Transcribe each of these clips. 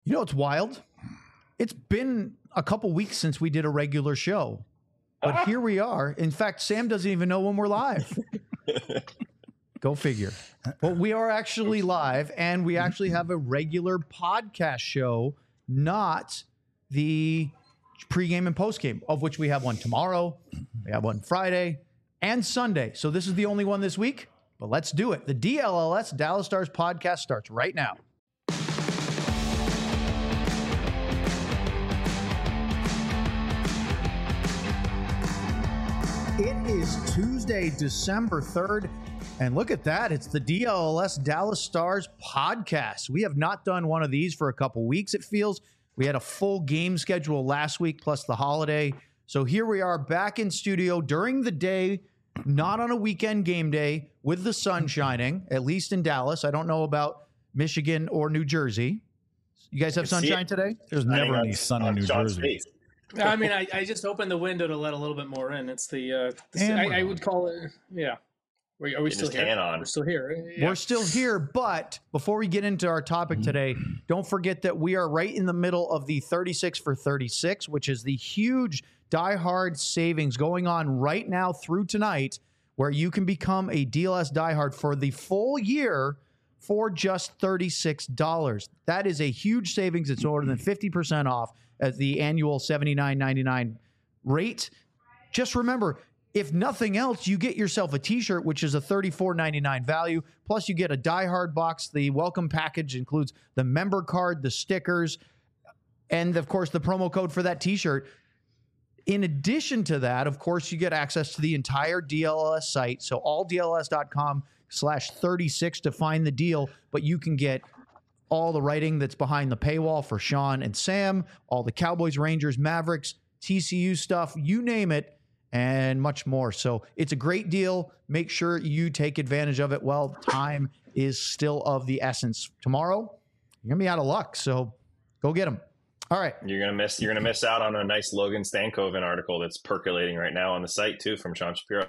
You know, it's wild. It's been a couple weeks since we did a regular show, but here we are. In fact, Sam doesn't even know when we're live. Go figure. Well, we are actually live, and we actually have a regular podcast show, not the pregame and postgame, of which we have one tomorrow, we have one Friday, and Sunday. So this is the only one this week, but let's do it. The DLLS, Dallas Stars podcast, starts right now. It is Tuesday, December 3rd, and look at that. It's the DLLS Dallas Stars podcast. We have not done one of these for a couple weeks, it feels. We had a full game schedule last week, plus the holiday. So here we are back in studio during the day, not on a weekend game day, with the sun shining, at least in Dallas. I don't know about Michigan or New Jersey. You guys have sunshine today? There's never any sun in New Jersey. I mean, I just opened the window to let a little bit more in. It's I would call it, yeah. Are we still here? We're still here. Yeah. We're still here, but before we get into our topic today, don't forget that we are right in the middle of the 36 for 36, which is the huge diehard savings going on right now through tonight, where you can become a DLS diehard for the full year for just $36. That is a huge savings. It's more than 50% off at the annual $79.99 rate. Just remember, if nothing else, you get yourself a t-shirt, which is a $34.99 value. Plus, you get a Die Hard box. The welcome package includes the member card, the stickers, and, of course, the promo code for that t-shirt. In addition to that, of course, you get access to the entire DLS site. So alldls.com/36 to find the deal. But you can get all the writing that's behind the paywall for Sean and Sam, all the Cowboys, Rangers, Mavericks, TCU stuff, you name it, and much more. So it's a great deal. Make sure you take advantage of it while time is still of the essence. Tomorrow, you're going to be out of luck, so go get them. All right. You're gonna miss out on a nice Logan Stankoven article that's percolating right now on the site too from Sean Shapiro.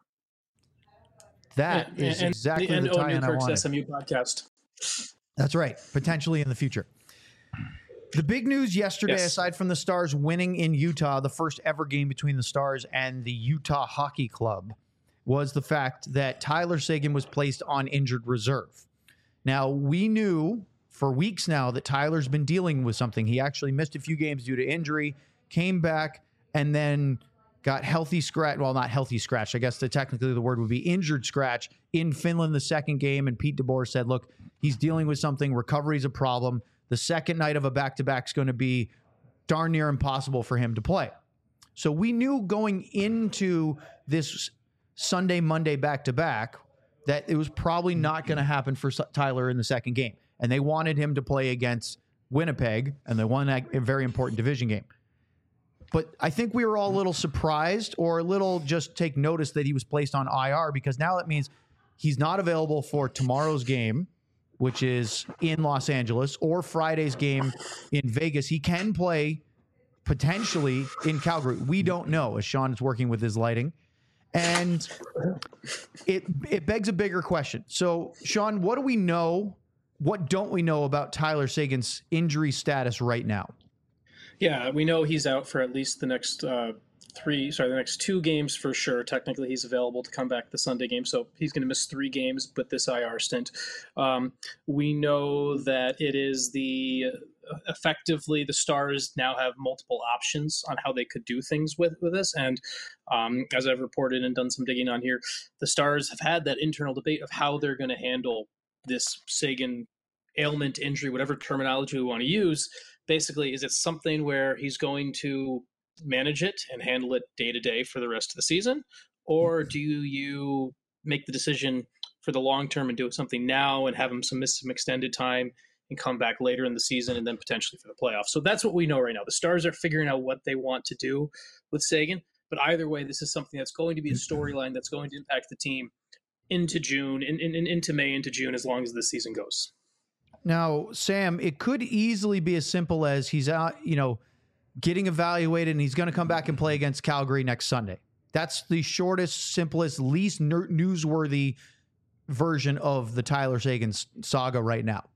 That is exactly the tie-in I wanted. SMU podcast. That's right. Potentially in the future. The big news yesterday, aside from the Stars winning in Utah, the first ever game between the Stars and the Utah Hockey Club, was the fact that Tyler Seguin was placed on injured reserve. Now, we knew for weeks now that Tyler's been dealing with something. He actually missed a few games due to injury, came back, and then got healthy scratch. Well, not healthy scratch. I guess technically the word would be injured scratch in Finland the second game. And Pete DeBoer said, look, he's dealing with something. Recovery's a problem. The second night of a back-to-back is going to be darn near impossible for him to play. So we knew going into this Sunday, Monday back-to-back that it was probably not going to happen for Tyler in the second game. And they wanted him to play against Winnipeg, and they won that very important division game. But I think we were all a little surprised or a little just take notice that he was placed on IR, because now that means he's not available for tomorrow's game, which is in Los Angeles, or Friday's game in Vegas. He can play potentially in Calgary. We don't know, as Sean is working with his lighting. And it begs a bigger question. So, Sean, what do we know? What don't we know about Tyler Seguin's injury status right now? Yeah, we know he's out for at least the next the next 2 games for sure. Technically, he's available to come back the Sunday game, so he's going to miss 3 games with this IR stint. We know that it is effectively the Stars now have multiple options on how they could do things with this. And as I've reported and done some digging on here, the Stars have had that internal debate of how they're going to handle this Seguin ailment, injury, whatever terminology we want to use. Basically, is it something where he's going to manage it and handle it day to day for the rest of the season? Or do you make the decision for the long term and do something now and have him miss some extended time and come back later in the season and then potentially for the playoffs? So that's what we know right now. The Stars are figuring out what they want to do with Seguin. But either way, this is something that's going to be a storyline that's going to impact the team into June, into May, into June, as long as the season goes. Now, Sam, it could easily be as simple as he's out, getting evaluated, and he's going to come back and play against Calgary next Sunday. That's the shortest, simplest, least newsworthy version of the Tyler Seguin saga right now.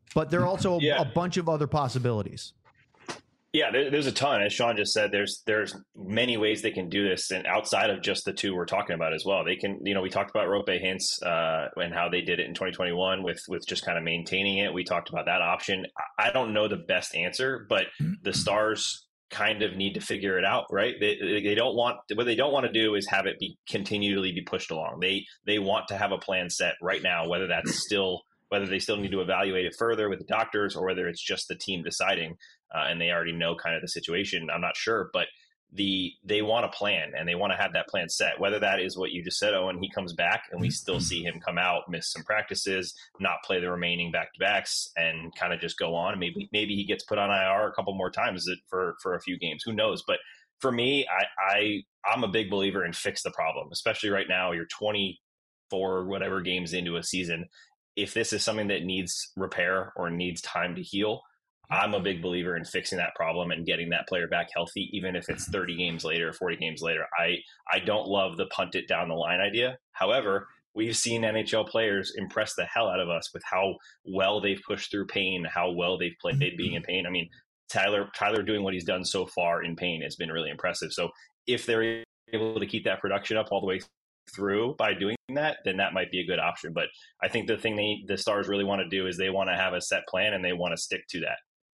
but there are also a bunch of other possibilities. Yeah, there's a ton. As Sean just said, there's many ways they can do this, and outside of just the two we're talking about as well. They can, we talked about Roope Hintz and how they did it in 2021 with just kind of maintaining it. We talked about that option. I don't know the best answer, but the Stars kind of need to figure it out, right? They don't want, what they don't want to do is have it continually be pushed along. They want to have a plan set right now, whether they still need to evaluate it further with the doctors or whether it's just the team deciding. And they already know kind of the situation. I'm not sure, but they want a plan and they want to have that plan set. Whether that is what you just said, Owen, he comes back and we still see him come out, miss some practices, not play the remaining back-to-backs, and kind of just go on. Maybe he gets put on IR a couple more times for a few games. Who knows? But for me, I'm a big believer in fix the problem, especially right now. You're 24 whatever games into a season. If this is something that needs repair or needs time to heal, I'm a big believer in fixing that problem and getting that player back healthy, even if it's 30 games later, 40 games later. I don't love the punt it down the line idea. However, we've seen NHL players impress the hell out of us with how well they've pushed through pain, how well they've played being in pain. I mean, Tyler doing what he's done so far in pain has been really impressive. So if they're able to keep that production up all the way through by doing that, then that might be a good option. But I think the thing the Stars really want to do is they want to have a set plan and they want to stick to that.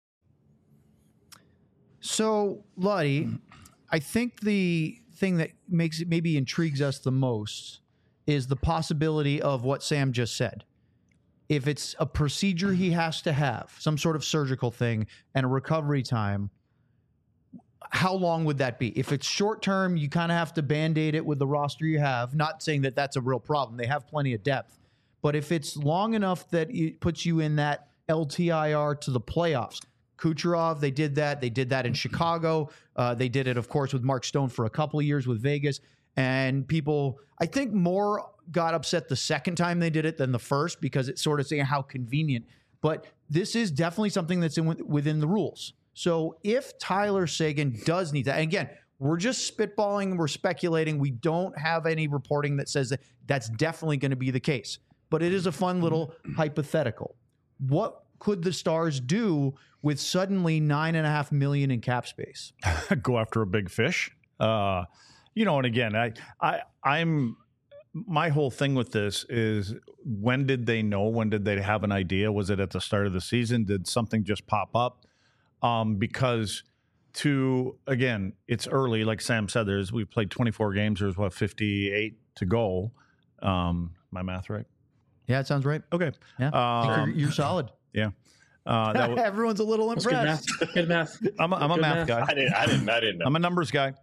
So, Luddy, I think the thing that maybe intrigues us the most is the possibility of what Sam just said. If it's a procedure he has to have, some sort of surgical thing, and a recovery time, how long would that be? If it's short term, you kind of have to Band-Aid it with the roster you have. Not saying that that's a real problem. They have plenty of depth. But if it's long enough that it puts you in that LTIR to the playoffs, Kucherov, they did that. They did that in Chicago. They did it, of course, with Mark Stone for a couple of years with Vegas. And people, I think, more got upset the second time they did it than the first because it's sort of saying how convenient. But this is definitely something that's within the rules. So if Tyler Seguin does need that, and again, we're just spitballing, we're speculating. We don't have any reporting that says that that's definitely going to be the case. But it is a fun little hypothetical. What could the Stars do with suddenly $9.5 million in cap space? Go after a big fish. And again, I'm my whole thing with this is, when did they know? When did they have an idea? Was it at the start of the season? Did something just pop up? Because it's early. Like Sam said, we played 24 games. There's 58 to go. My math right? Yeah, it sounds right. Okay. Yeah, you're solid. Yeah. Everyone's a little impressed. Good math. I'm a math guy. I didn't know. I'm a numbers guy.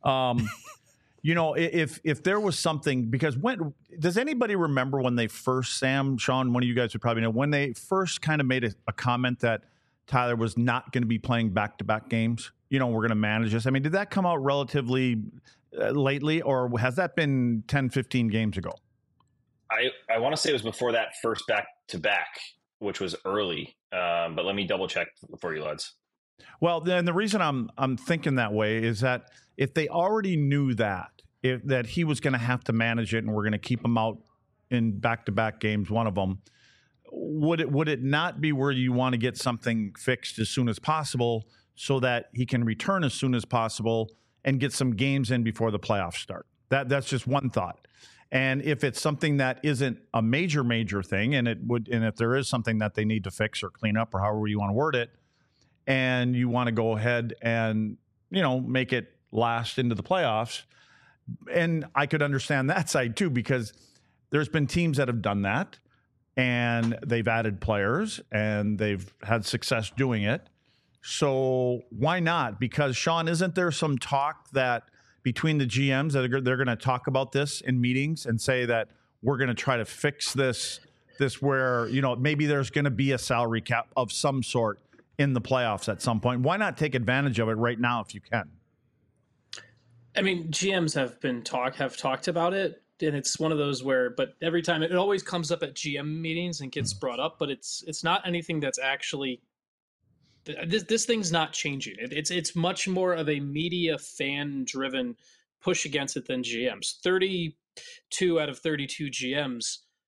If there was something, because does anybody remember when they first, Sam, Sean, one of you guys would probably know, when they first kind of made a comment that Tyler was not going to be playing back-to-back games? We're going to manage this. I mean, did that come out relatively lately, or has that been 10, 15 games ago? I want to say it was before that first back-to-back, which was early. But let me double check for you, lads. Well, then the reason I'm thinking that way is that if they already knew that he was going to have to manage it and we're going to keep him out in back-to-back games, one of them, would it not be where you want to get something fixed as soon as possible so that he can return as soon as possible and get some games in before the playoffs start? That's just one thought. And if it's something that isn't a major thing, and if there is something that they need to fix or clean up or however you want to word it, and you want to go ahead and, make it last into the playoffs, and I could understand that side too, because there's been teams that have done that and they've added players and they've had success doing it. So why not? Because, Sean, isn't there some talk that between the GMs that they're going to talk about this in meetings and say that we're going to try to fix this where, maybe there's going to be a salary cap of some sort in the playoffs at some point? Why not take advantage of it right now if you can? I mean, GMs have talked about it, and it's one of those but every time it always comes up at GM meetings and gets brought up, but it's not anything that's actually this thing's not changing. It's much more of a media fan driven push against it than GMs. 32 out of 32 GMs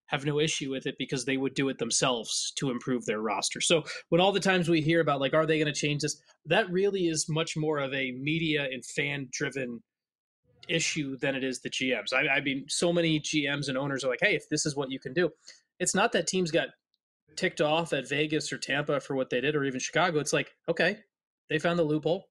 have no issue with it because they would do it themselves to improve their roster. So when all the times we hear about, like, are they going to change this? That really is much more of a media and fan driven issue than it is the GMs. I mean, so many GMs and owners are like, hey, if this is what you can do, it's not that teams got ticked off at Vegas or Tampa for what they did, or even Chicago. It's like, okay, they found the loophole.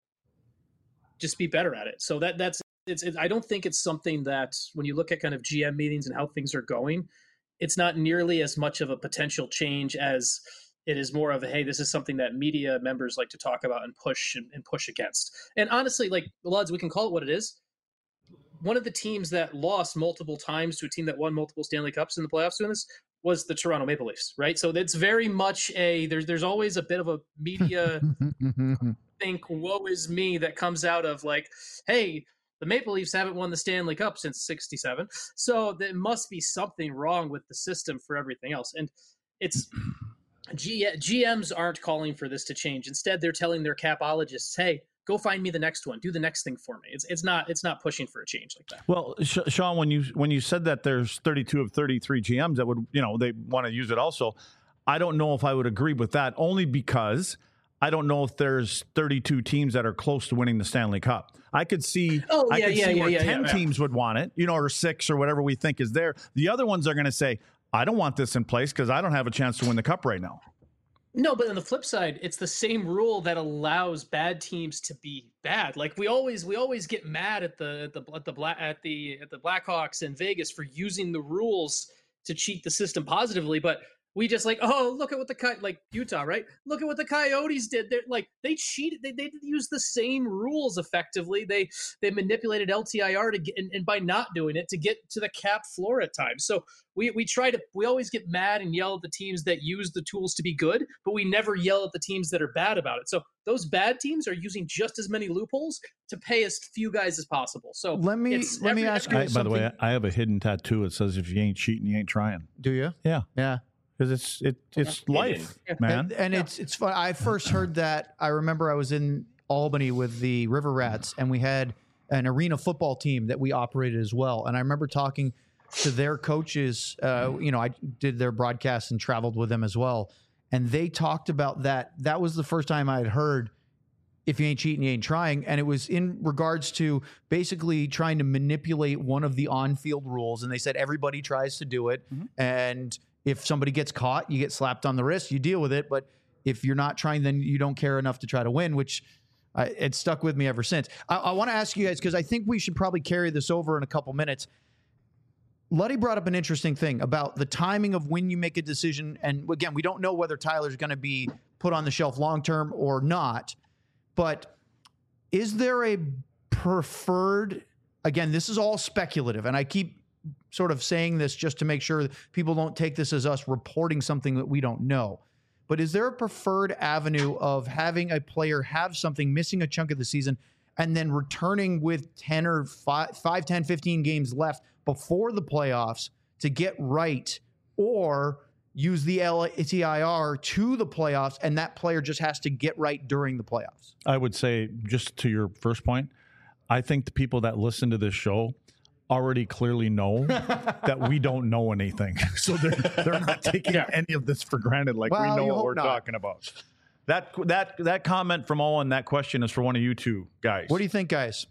Just be better at it. So that's I don't think it's something that when you look at kind of GM meetings and how things are going, it's not nearly as much of a potential change as it is more of a, hey, this is something that media members like to talk about and push against. And honestly, like, Luds, we can call it what it is. One of the teams that lost multiple times to a team that won multiple Stanley Cups in the playoffs doing this was the Toronto Maple Leafs, right? So it's very much there's always a bit of a media think, woe is me, that comes out of like, hey, the Maple Leafs haven't won the Stanley Cup since '67, so there must be something wrong with the system for everything else. And it's GMs aren't calling for this to change. Instead, they're telling their capologists, hey, go find me the next one. Do the next thing for me. It's not pushing for a change like that. Well, Sean, when you said that there's 32 of 33 GMs that would, they want to use it also, I don't know if I would agree with that, only because I don't know if there's 32 teams that are close to winning the Stanley Cup. I could see, where 10 teams would want it, or 6 or whatever we think is there. The other ones are going to say, I don't want this in place because I don't have a chance to win the cup right now. No, but on the flip side, it's the same rule that allows bad teams to be bad. Like we always get mad at the Blackhawks in Vegas for using the rules to cheat the system positively, but we just like, oh, look at what like Utah, right? Look at what the Coyotes did. They cheated. They used the same rules effectively. They manipulated LTIR to get, and by not doing it, to get to the cap floor at times. So we always get mad and yell at the teams that use the tools to be good, but we never yell at the teams that are bad about it. So those bad teams are using just as many loopholes to pay as few guys as possible. So let me ask you. By the way, I have a hidden tattoo. It says, "If you ain't cheating, you ain't trying." Do you? Yeah. Yeah. Because it's life, man. And it's fun. I first heard that. I remember I was in Albany with the River Rats, and we had an arena football team that we operated as well. And I remember talking to their coaches. I did their broadcasts and traveled with them as well. And they talked about that. That was the first time I had heard, if you ain't cheating, you ain't trying. And it was in regards to basically trying to manipulate one of the on-field rules. And they said everybody tries to do it. Mm-hmm. And if somebody gets caught, you get slapped on the wrist, you deal with it. But if you're not trying, then you don't care enough to try to win, which it stuck with me ever since. I want to ask you guys, because I think we should probably carry this over in a couple minutes. Luddy brought up an interesting thing about the timing of when you make a decision. And again, we don't know whether Tyler's going to be put on the shelf long-term or not. But is there a preferred, again, this is all speculative, and I keep sort of saying this just to make sure that people don't take this as us reporting something that we don't know. But is there a preferred avenue of having a player have something, missing a chunk of the season, and then returning with 10 or 5, 10, 15 games left before the playoffs to get right, or use the LTIR to the playoffs and that player just has to get right during the playoffs? I would say, just to your first point, I think the people that listen to this show already clearly know that we don't know anything. So they're not taking any of this for granted. Like, we know what we're talking about. That comment from Owen, that question is for one of you two guys. What do you think, guys?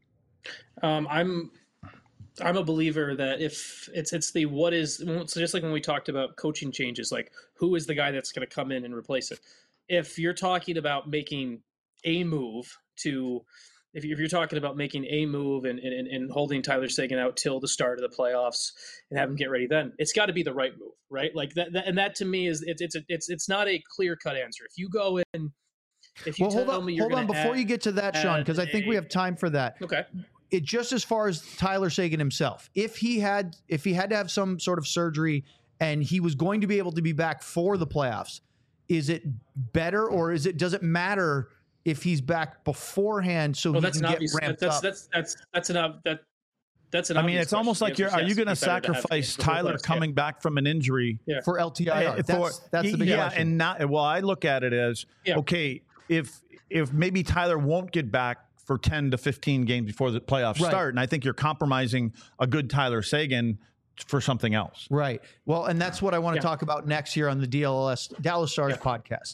I'm a believer that if it's the what is, so just like when we talked about coaching changes, like who is the guy that's going to come in and replace it? If you're talking about making a move to, if you're talking about making a move and holding Tyler Seguin out till the start of the playoffs and have him get ready, then it's got to be the right move, right? Like that and that to me is it's not a clear cut answer. If you go in, if you tell me you're going to hold on before you get to that, Sean, because I think we have time for that. Okay. It just as far as Tyler Seguin himself, if he had to have some sort of surgery and he was going to be able to be back for the playoffs, is it better or does it matter if he's back beforehand so he can get ramped up? That's an. I mean, it's almost like are you going to sacrifice Tyler coming back from an injury for LTIR? That's the big question. And I look at it as okay, if maybe Tyler won't get back for 10 to 15 games before the playoffs start, and I think you're compromising a good Tyler Seguin for something else. Right. Well, and that's what I want to talk about next here on the Dallas Stars podcast.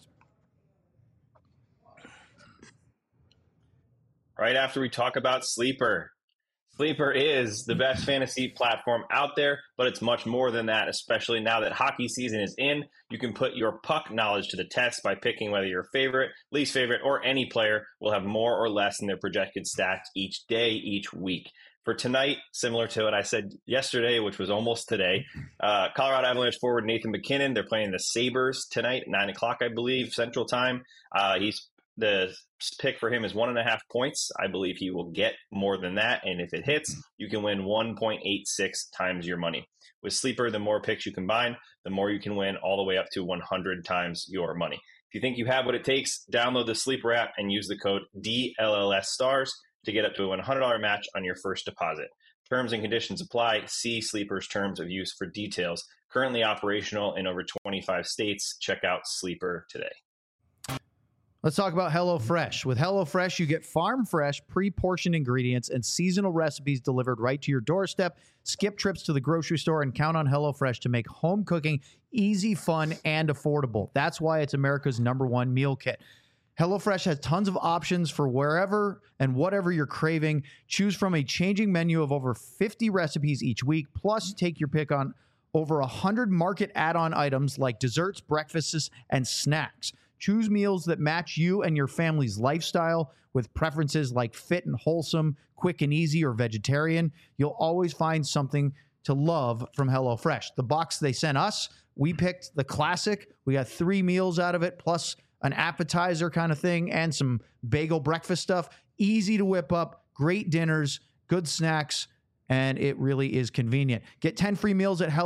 Right after we talk about Sleeper. Sleeper is the best fantasy platform out there, but it's much more than that, especially now that hockey season is in. You can put your puck knowledge to the test by picking whether your favorite, least favorite, or any player will have more or less in their projected stats each day, each week. For tonight, similar to what I said yesterday, which was almost today, Colorado Avalanche forward Nathan MacKinnon, they're playing the Sabres tonight at 9 o'clock, I believe, Central Time. The pick for him is 1.5 points. I believe he will get more than that. And if it hits, you can win 1.86 times your money. With Sleeper, the more picks you combine, the more you can win, all the way up to 100 times your money. If you think you have what it takes, download the Sleeper app and use the code DLLSstars to get up to a $100 match on your first deposit. Terms and conditions apply. See Sleeper's terms of use for details. Currently operational in over 25 states. Check out Sleeper today. Let's talk about HelloFresh. With HelloFresh, you get farm-fresh, pre-portioned ingredients and seasonal recipes delivered right to your doorstep. Skip trips to the grocery store and count on HelloFresh to make home cooking easy, fun, and affordable. That's why it's America's #1 meal kit. HelloFresh has tons of options for wherever and whatever you're craving. Choose from a changing menu of over 50 recipes each week, plus take your pick on over 100 market add-on items like desserts, breakfasts, and snacks. Choose meals that match you and your family's lifestyle with preferences like fit and wholesome, quick and easy, or vegetarian. You'll always find something to love from HelloFresh. The box they sent us, we picked the classic. We got 3 meals out of it, plus an appetizer kind of thing and some bagel breakfast stuff. Easy to whip up, great dinners, good snacks, and it really is convenient. Get 10 free meals at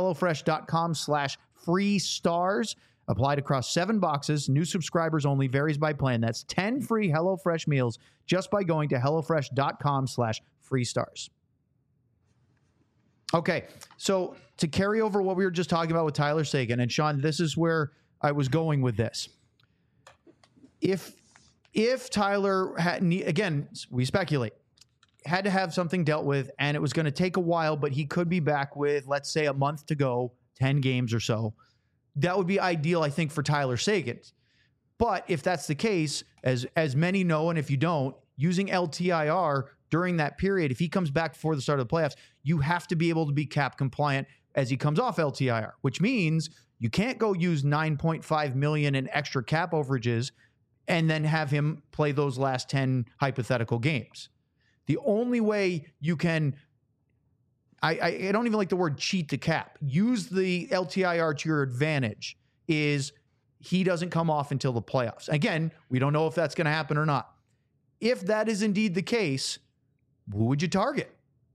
HelloFresh.com/freestars. Applied across 7 boxes. New subscribers only. Varies by plan. That's 10 free HelloFresh meals just by going to HelloFresh.com/freestars. Okay, so to carry over what we were just talking about with Tyler Seguin, and Sean, this is where I was going with this. If Tyler had, again, we speculate, had to have something dealt with, and it was going to take a while, but he could be back with, let's say, a month to go, 10 games or so. That would be ideal, I think, for Tyler Seguin. But if that's the case, as many know, and if you don't, using LTIR during that period, if he comes back before the start of the playoffs, you have to be able to be cap compliant as he comes off LTIR, which means you can't go use $9.5 million in extra cap overages and then have him play those last 10 hypothetical games. The only way you can, I don't even like the word cheat the cap, use the LTIR to your advantage, is he doesn't come off until the playoffs. Again, we don't know if that's going to happen or not. If that is indeed the case, who would you target?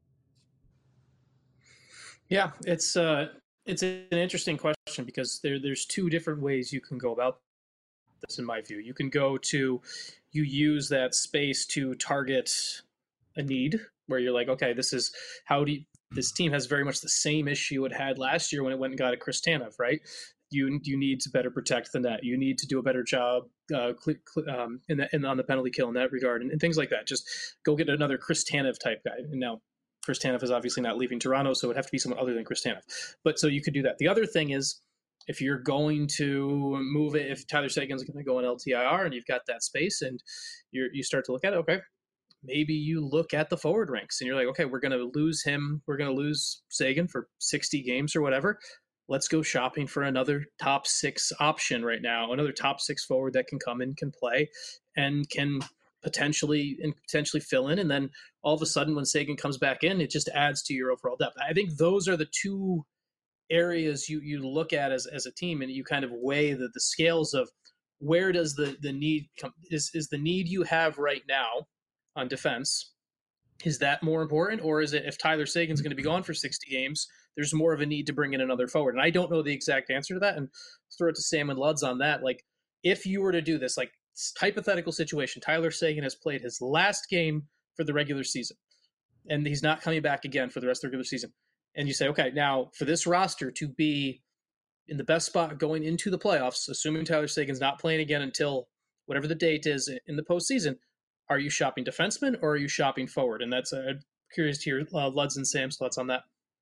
Yeah, it's an interesting question because there's 2 different ways you can go about this, in my view. You can you use that space to target a need where you're like, okay, this team has very much the same issue it had last year when it went and got a Chris Tanev, right? You need to better protect the net. You need to do a better job on the penalty kill in that regard, and things like that. Just go get another Chris Tanev type guy. And now Chris Tanev is obviously not leaving Toronto, so it would have to be someone other than Chris Tanev. But so you could do that. The other thing is, if you're going to move it, if Tyler Seguin's going to go in LTIR and you've got that space and you start to look at it, okay, maybe you look at the forward ranks and you're like, okay, we're going to lose him. We're going to lose Seguin for 60 games or whatever. Let's go shopping for another top 6 option right now, another top 6 forward that can come in, can play, and can potentially fill in. And then all of a sudden when Seguin comes back in, it just adds to your overall depth. I think those are the 2 areas you look at as a team, and you kind of weigh the scales of where does the need come. Is the need you have right now on defense, is that more important? Or is it, if Tyler Seguin's going to be gone for 60 games, there's more of a need to bring in another forward? And I don't know the exact answer to that, and throw it to Sam and Luds on that. Like, if you were to do this, like, hypothetical situation, Tyler Seguin has played his last game for the regular season, and he's not coming back again for the rest of the regular season. And you say, okay, now for this roster to be in the best spot going into the playoffs, assuming Tyler Seguin's not playing again until whatever the date is in the postseason, are you shopping defenseman or are you shopping forward? And that's curious to hear Luds and Sam's thoughts on that.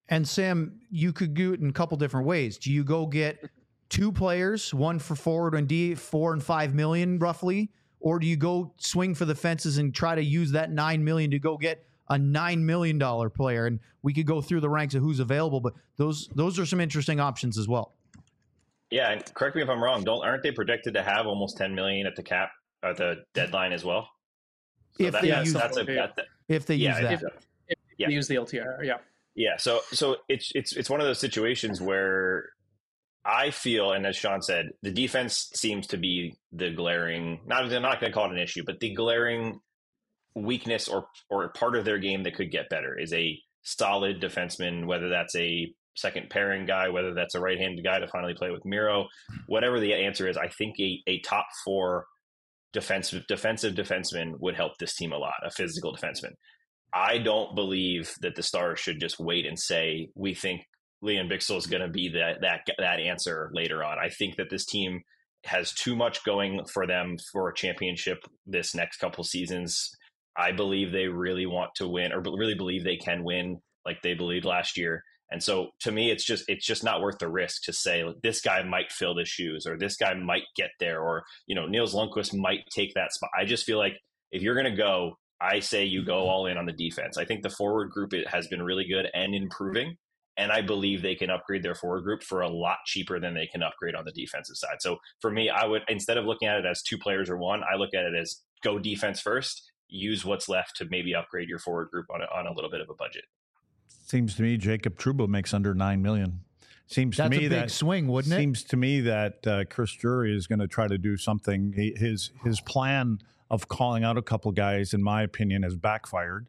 And Sam, you could do it in a couple different ways. Do you go get 2 players, one for forward and D, 4 and 5 million roughly, or do you go swing for the fences and try to use that 9 million to go get a $9 million player? And we could go through the ranks of who's available, but those are some interesting options as well. Yeah, and correct me if I'm wrong. Aren't they projected to have almost 10 million at the cap at the deadline as well? So If they use that. If they use that. If they use the LTIR, yeah. Yeah, so it's one of those situations where I feel, and as Sean said, the defense seems to be the glaring, I'm not going to call it an issue, but the glaring weakness or part of their game that could get better is a solid defenseman, whether that's a second pairing guy, whether that's a right-handed guy to finally play with Miro, whatever the answer is. I think a top 4 defensive defenseman would help this team a lot, a physical defenseman. I don't believe that the Stars should just wait and say, we think Leon Bixel is going to be that answer later on. I think that this team has too much going for them for a championship this next couple seasons. I believe they really want to win, or really believe they can win like they believed last year. And so to me, it's just not worth the risk to say this guy might fill the shoes, or this guy might get there, or, Nils Lundkvist might take that spot. I just feel like if you're going to go, I say you go all in on the defense. I think the forward group has been really good and improving, and I believe they can upgrade their forward group for a lot cheaper than they can upgrade on the defensive side. So for me, I would, instead of looking at it as 2 players or 1, I look at it as go defense first, use what's left to maybe upgrade your forward group on a little bit of a budget. Seems to me Jacob Trouba makes under $9 million. Seems That's to me a big swing, wouldn't it? Seems to me that Chris Drury is going to try to do something. His plan of calling out a couple guys, in my opinion, has backfired,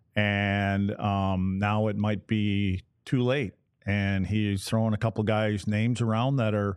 and now it might be too late. And he's throwing a couple guys' names around that are,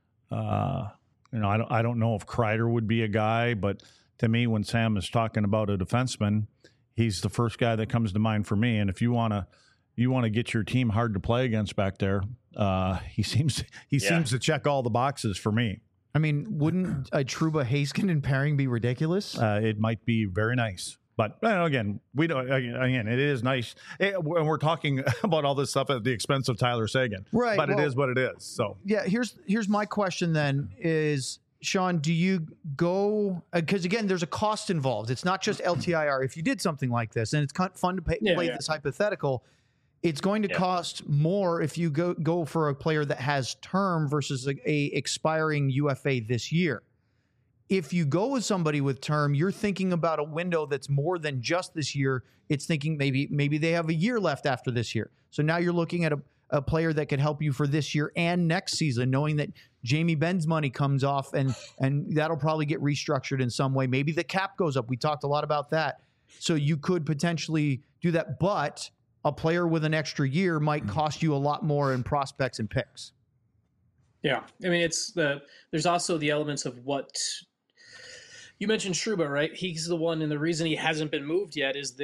I don't know if Kreider would be a guy, but to me, when Sam is talking about a defenseman, he's the first guy that comes to mind for me. And if you want to get your team hard to play against back there, he seems to check all the boxes for me. I mean, wouldn't a Trouba Heiskanen pairing be ridiculous? It might be very nice, but again, we don't. Again, it is nice, and we're talking about all this stuff at the expense of Tyler Seguin, right? But it is what it is. So yeah, here's my question then: is Sean, do you go, because again, there's a cost involved. It's not just LTIR. If you did something like this, and it's kind of fun to play this hypothetical, it's going to cost more if you go for a player that has term versus a expiring UFA this year. If you go with somebody with term, you're thinking about a window that's more than just this year. It's thinking maybe they have a year left after this year. So now you're looking at a player that could help you for this year and next season, knowing that Jamie Benn's money comes off and that'll probably get restructured in some way. Maybe the cap goes up. We talked a lot about that. So you could potentially do that, but a player with an extra year might cost you a lot more in prospects and picks. Yeah. I mean, there's also the elements of what you mentioned, Trouba, right? He's the one, and the reason he hasn't been moved yet is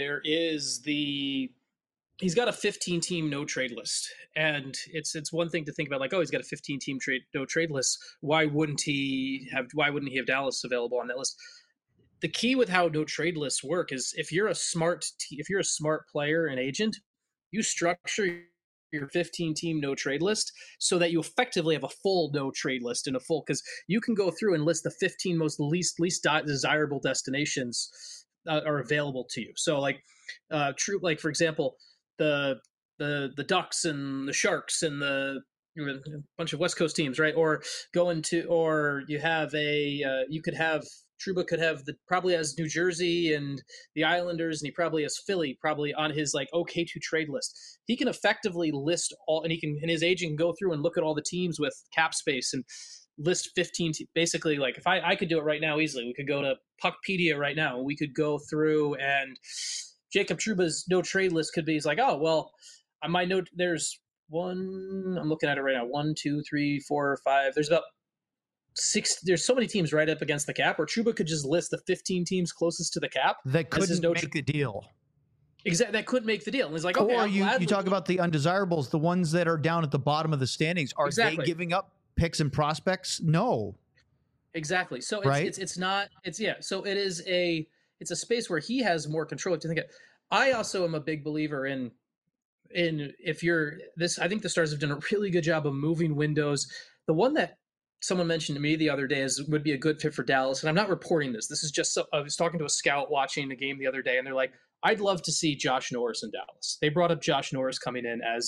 he's got a 15-team no-trade list. And it's one thing to think about, like, oh, he's got a 15-team no-trade list. Why wouldn't he have Dallas available on that list? The key with how no-trade lists work is if you're a smart player and agent, you structure your 15-team no-trade list so that you effectively have a full no-trade list and a full, because you can go through and list the 15 most least desirable destinations are available to you. So like for example, the Ducks and the Sharks and a bunch of West Coast teams, right? Or you have Trouba could have probably has New Jersey and the Islanders, and he probably has Philly probably on his like okay to trade list. He can effectively list all, and his agent can go through and look at all the teams with cap space and list 15. Basically, like if I could do it right now easily, we could go to Puckpedia right now. We could go through, and Jacob Trouba's no trade list could be, he's like, oh well, I might note there's one. I'm looking at it right now. 1, 2, 3, 4, 5. There's about 6. There's so many teams right up against the cap, or Trouba could just list the 15 teams closest to the cap that couldn't make the deal. Exactly, that could make the deal. And it's like, okay, or you talk about the undesirables, the ones that are down at the bottom of the standings. Are they giving up picks and prospects? No. Exactly. So So it's a space where he has more control. To think I also am a big believer in I think the Stars have done a really good job of moving windows. The one that someone mentioned to me the other day would be a good fit for Dallas, and I'm not reporting this. This is just I was talking to a scout watching the game the other day, and they're like, I'd love to see Josh Norris in Dallas. They brought up Josh Norris coming in as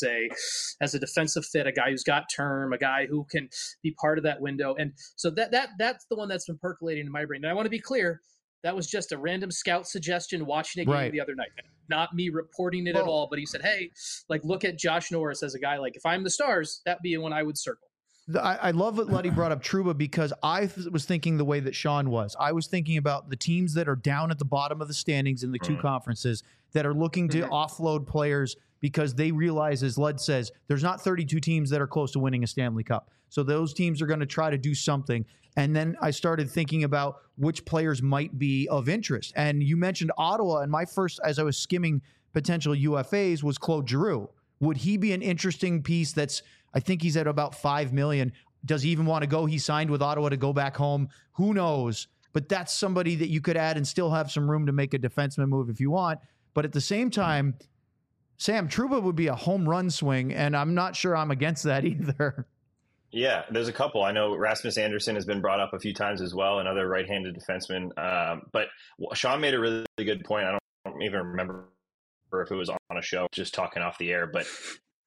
a defensive fit, a guy who's got term, a guy who can be part of that window. And so that's the one that's been percolating in my brain. And I want to be clear, that was just a random scout suggestion watching a game the other night. Not me reporting it at all, but he said, hey, like, look at Josh Norris as a guy, like, if I'm the Stars, that'd be one I would circle. I love that Letty brought up Trouba, because I was thinking the way that Sean was. I was thinking about the teams that are down at the bottom of the standings in the two conferences that are looking to offload players because they realize, as Led says, there's not 32 teams that are close to winning a Stanley Cup. So those teams are going to try to do something. And then I started thinking about which players might be of interest. And you mentioned Ottawa, and my first, as I was skimming potential UFAs, was Claude Giroux. Would he be an interesting piece that's, I think he's at about $5 million. Does he even want to go? He signed with Ottawa to go back home. Who knows? But that's somebody that you could add and still have some room to make a defenseman move if you want. But at the same time, Sam, Trouba would be a home run swing, and I'm not sure I'm against that either. Yeah, there's a couple. I know Rasmus Anderson has been brought up a few times as well, another right-handed defenseman. But Sean made a really good point. I don't even remember if it was on a show, just talking off the air, but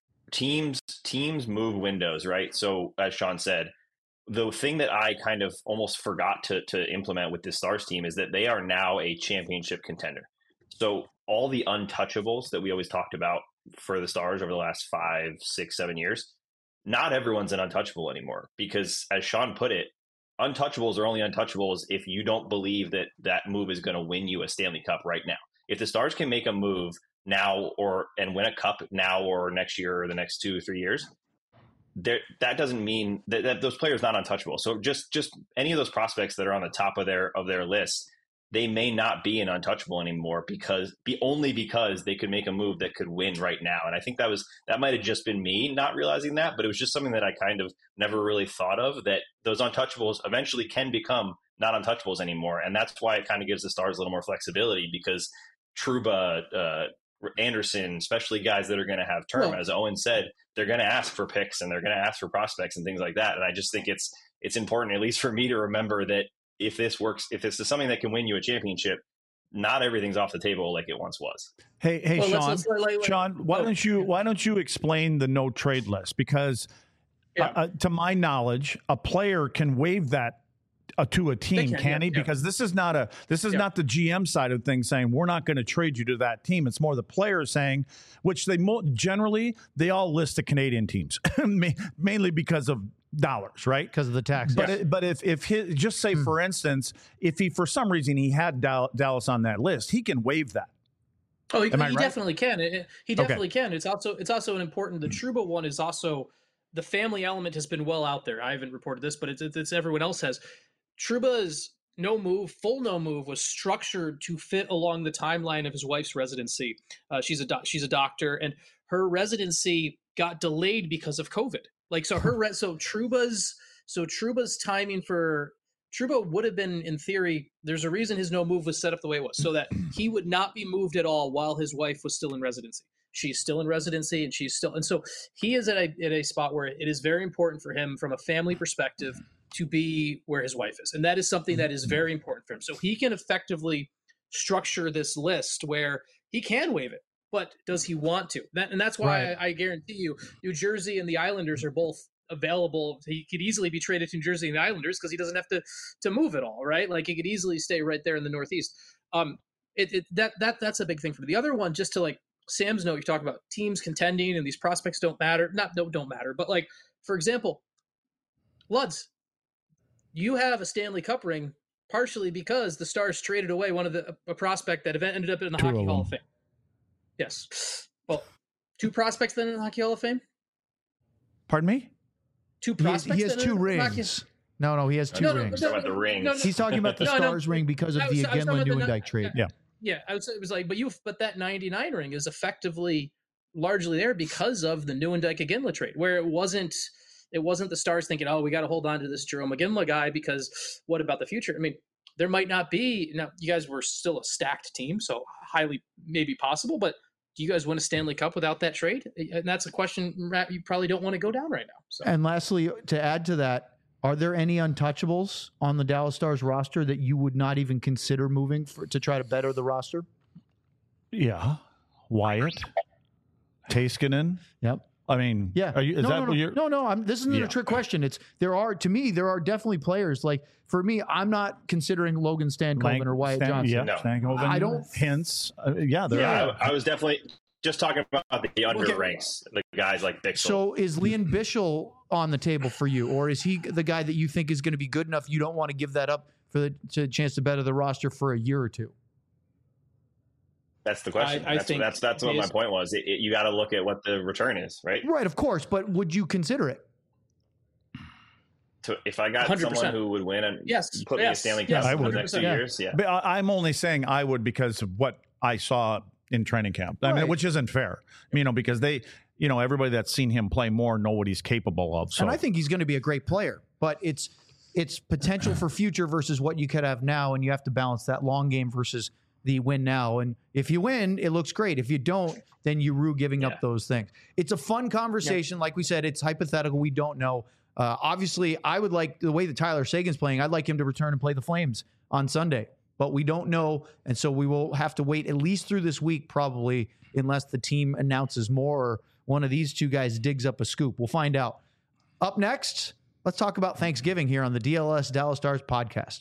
teams move windows, right? So as Sean said, the thing that I kind of almost forgot to implement with this Stars team is that they are now a championship contender. So all the untouchables that we always talked about for the Stars over the last 5, 6, 7 years, not everyone's an untouchable anymore, because as Sean put it, untouchables are only untouchables if you don't believe that that move is going to win you a Stanley Cup right now. If the Stars can make a move now and win a cup now or next year or the next 2 or 3 years, that doesn't mean that those players not untouchable. So just any of those prospects that are on the top of their list, they may not be an untouchable anymore only because they could make a move that could win right now. And I think that might have just been me not realizing that, but it was just something that I kind of never really thought of, that those untouchables eventually can become not untouchables anymore. And that's why it kind of gives the Stars a little more flexibility, because Trouba, Anderson, especially guys that are going to have term, as Owen said, they're going to ask for picks and they're going to ask for prospects and things like that. And I just think it's important, at least for me, to remember that if this works, if this is something that can win you a championship, not everything's off the table like it once was. Hey, well, Sean, why don't you explain the no trade list? Because to my knowledge, a player can waive that to a team, can he? Because this is not not the GM side of things saying we're not going to trade you to that team. It's more the players saying, which they generally they all list the Canadian teams mainly because of dollars, right? Because of the tax. But if his, just say for instance, if he for some reason he had Dallas on that list, he can waive that. Oh, he definitely can. He definitely can. It's also an important. The Trouba one is also, the family element has been well out there. I haven't reported this, but it's everyone else has. Trouba's full no move was structured to fit along the timeline of his wife's residency. She's a doctor, and her residency got delayed because of COVID. Like, so Trouba's timing for Trouba would have been, in theory, there's a reason his no move was set up the way it was, so that he would not be moved at all while his wife was still in residency. She's still in residency, and so he is at a spot where it is very important for him from a family perspective to be where his wife is. And that is something that is very important for him. So he can effectively structure this list where he can waive it, but does he want to? And that's why I guarantee you, New Jersey and the Islanders are both available. He could easily be traded to New Jersey and the Islanders because he doesn't have to move at all, right? Like, he could easily stay right there in the Northeast. That's a big thing for me. The other one, just to like Sam's note, you talk about teams contending and these prospects don't matter. Don't matter. But like, for example, Luds, you have a Stanley Cup ring partially because the Stars traded away a prospect that ended up in the Hockey Hall of Fame. Yes. Well, 2 prospects then in the Hockey Hall of Fame? Pardon me? 2 prospects? He has 2 rings. No, he has 2 rings. He's talking about the rings. He's talking about the Stars ring because of the Iginla-Nieuwendyk trade. Yeah. I would say it was like, but that 99 ring is effectively largely there because of the Nieuwendyk-Iginla trade, where it wasn't the Stars thinking, oh, we got to hold on to this Jarome Iginla guy because what about the future? I mean, there might not be. Now, you guys were still a stacked team, so highly maybe possible, but do you guys win a Stanley Cup without that trade? And that's a question you probably don't want to go down right now. So. And lastly, to add to that, are there any untouchables on the Dallas Stars roster that you would not even consider moving to try to better the roster? Yeah. Wyatt, Teiskanen. Yep. I mean, yeah. No. This isn't a trick question. There are definitely players like, for me, I'm not considering Logan Stankoven or Wyatt Johnson. Yeah, no. Stankoven. I don't. Hence, I was definitely just talking about the under ranks, the guys like Bixel. So is Lian Bichsel on the table for you, or is he the guy that you think is going to be good enough you don't want to give that up for the chance to better the roster for a year or two? That's the question. That's what my point was. You got to look at what the return is, right? Right, of course. But would you consider it? If I got 100%. Someone who would win and put me a Stanley Cup for the next 2 years, But I'm only saying I would because of what I saw in training camp. I mean, which isn't fair, because they, everybody that's seen him play more know what he's capable of. So. And I think he's going to be a great player, but it's potential for future versus what you could have now, and you have to balance that long game versus the win now. And if you win, it looks great. If you don't, then you rue giving up those things. It's a fun conversation. Like we said, it's hypothetical. We don't know. Obviously, I would like the way that Tyler Seguin's playing. I'd like him to return and play the Flames on Sunday, but we don't know. And so we will have to wait at least through this week, probably, unless the team announces more or one of these two guys digs up a scoop. We'll find out. Up next, let's talk about Thanksgiving here on the DLS Dallas Stars podcast.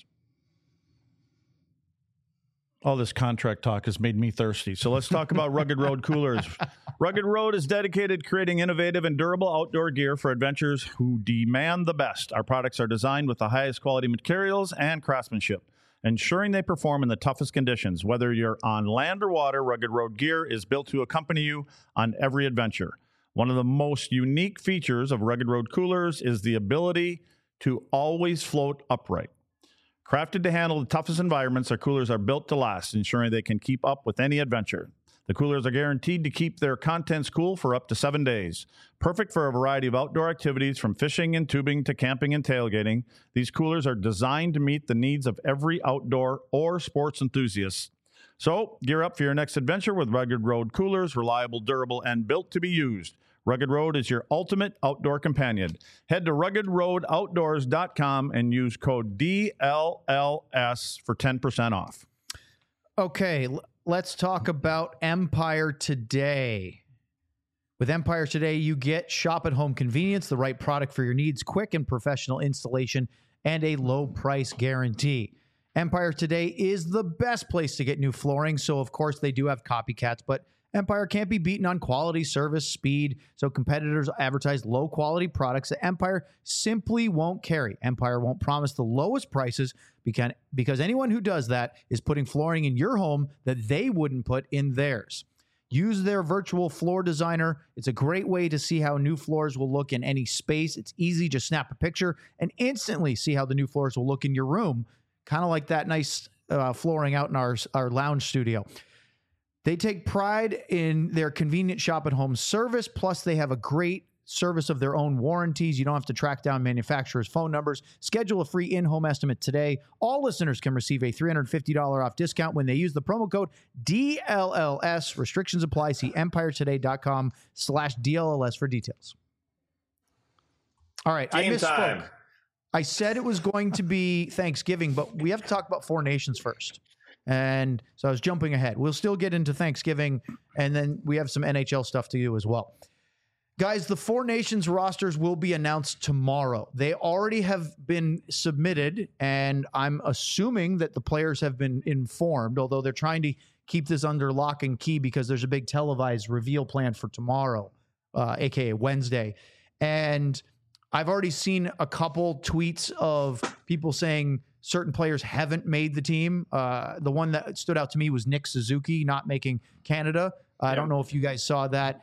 All this contract talk has made me thirsty. So let's talk about Rugged Road Coolers. Rugged Road is dedicated to creating innovative and durable outdoor gear for adventurers who demand the best. Our products are designed with the highest quality materials and craftsmanship, ensuring they perform in the toughest conditions. Whether you're on land or water, Rugged Road gear is built to accompany you on every adventure. One of the most unique features of Rugged Road Coolers is the ability to always float upright. Crafted to handle the toughest environments, our coolers are built to last, ensuring they can keep up with any adventure. The coolers are guaranteed to keep their contents cool for up to 7 days. Perfect for a variety of outdoor activities, from fishing and tubing to camping and tailgating. These coolers are designed to meet the needs of every outdoor or sports enthusiast. So, gear up for your next adventure with Rugged Road Coolers, reliable, durable, and built to be used. Rugged Road is your ultimate outdoor companion. Head to ruggedroadoutdoors.com and use code DLLS for 10% off. Okay, let's talk about Empire Today. With Empire Today, you get shop-at-home convenience, the right product for your needs, quick and professional installation, and a low price guarantee. Empire Today is the best place to get new flooring, so of course they do have copycats, but Empire can't be beaten on quality, service, speed, so competitors advertise low-quality products that Empire simply won't carry. Empire won't promise the lowest prices because anyone who does that is putting flooring in your home that they wouldn't put in theirs. Use their virtual floor designer. It's a great way to see how new floors will look in any space. It's easy. Just snap a picture and instantly see how the new floors will look in your room, kind of like that nice flooring out in our lounge studio. They take pride in their convenient shop-at-home service, plus they have a great service of their own warranties. You don't have to track down manufacturers' phone numbers. Schedule a free in-home estimate today. All listeners can receive a $350 off discount when they use the promo code DLLS. Restrictions apply. See empiretoday.com/DLLS for details. All right. Game I misspoke. time. I said it was going to be Thanksgiving, but we have to talk about Four Nations first. And so I was jumping ahead. We'll still get into Thanksgiving, and then we have some NHL stuff to do as well. Guys, the Four Nations rosters will be announced tomorrow. They already have been submitted, and I'm assuming that the players have been informed, although they're trying to keep this under lock and key because there's a big televised reveal planned for tomorrow, aka Wednesday. And I've already seen a couple tweets of people saying certain players haven't made the team. The one that stood out to me was Nick Suzuki not making Canada. I don't know if you guys saw that.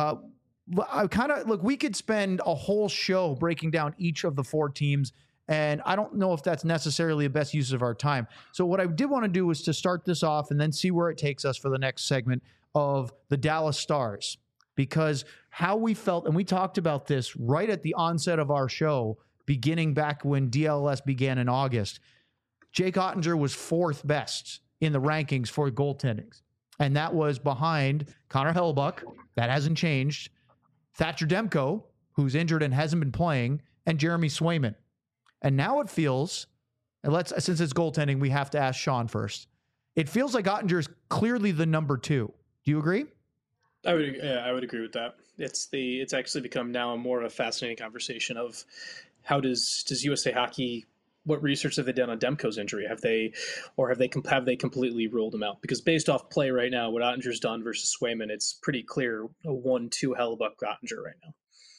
We could spend a whole show breaking down each of the four teams, and I don't know if that's necessarily the best use of our time. So what I did want to do was to start this off and then see where it takes us for the next segment of the Dallas Stars, because how we felt, and we talked about this right at the onset of our show, beginning back when DLS began in August. Jake Ottinger was fourth best in the rankings for goaltending. And that was behind Connor Hellebuyck. That hasn't changed. Thatcher Demko, who's injured and hasn't been playing, and Jeremy Swayman. And now it feels, and since it's goaltending, we have to ask Sean first. It feels like Oettinger is clearly the number 2. Do you agree? I would agree with that. It's actually become now more of a fascinating conversation of how does USA Hockey, what research have they done on Demko's injury? Have they completely ruled him out? Because based off play right now, what Ottinger's done versus Swayman, it's pretty clear a 1-2 Hellebuyck Ottinger right now.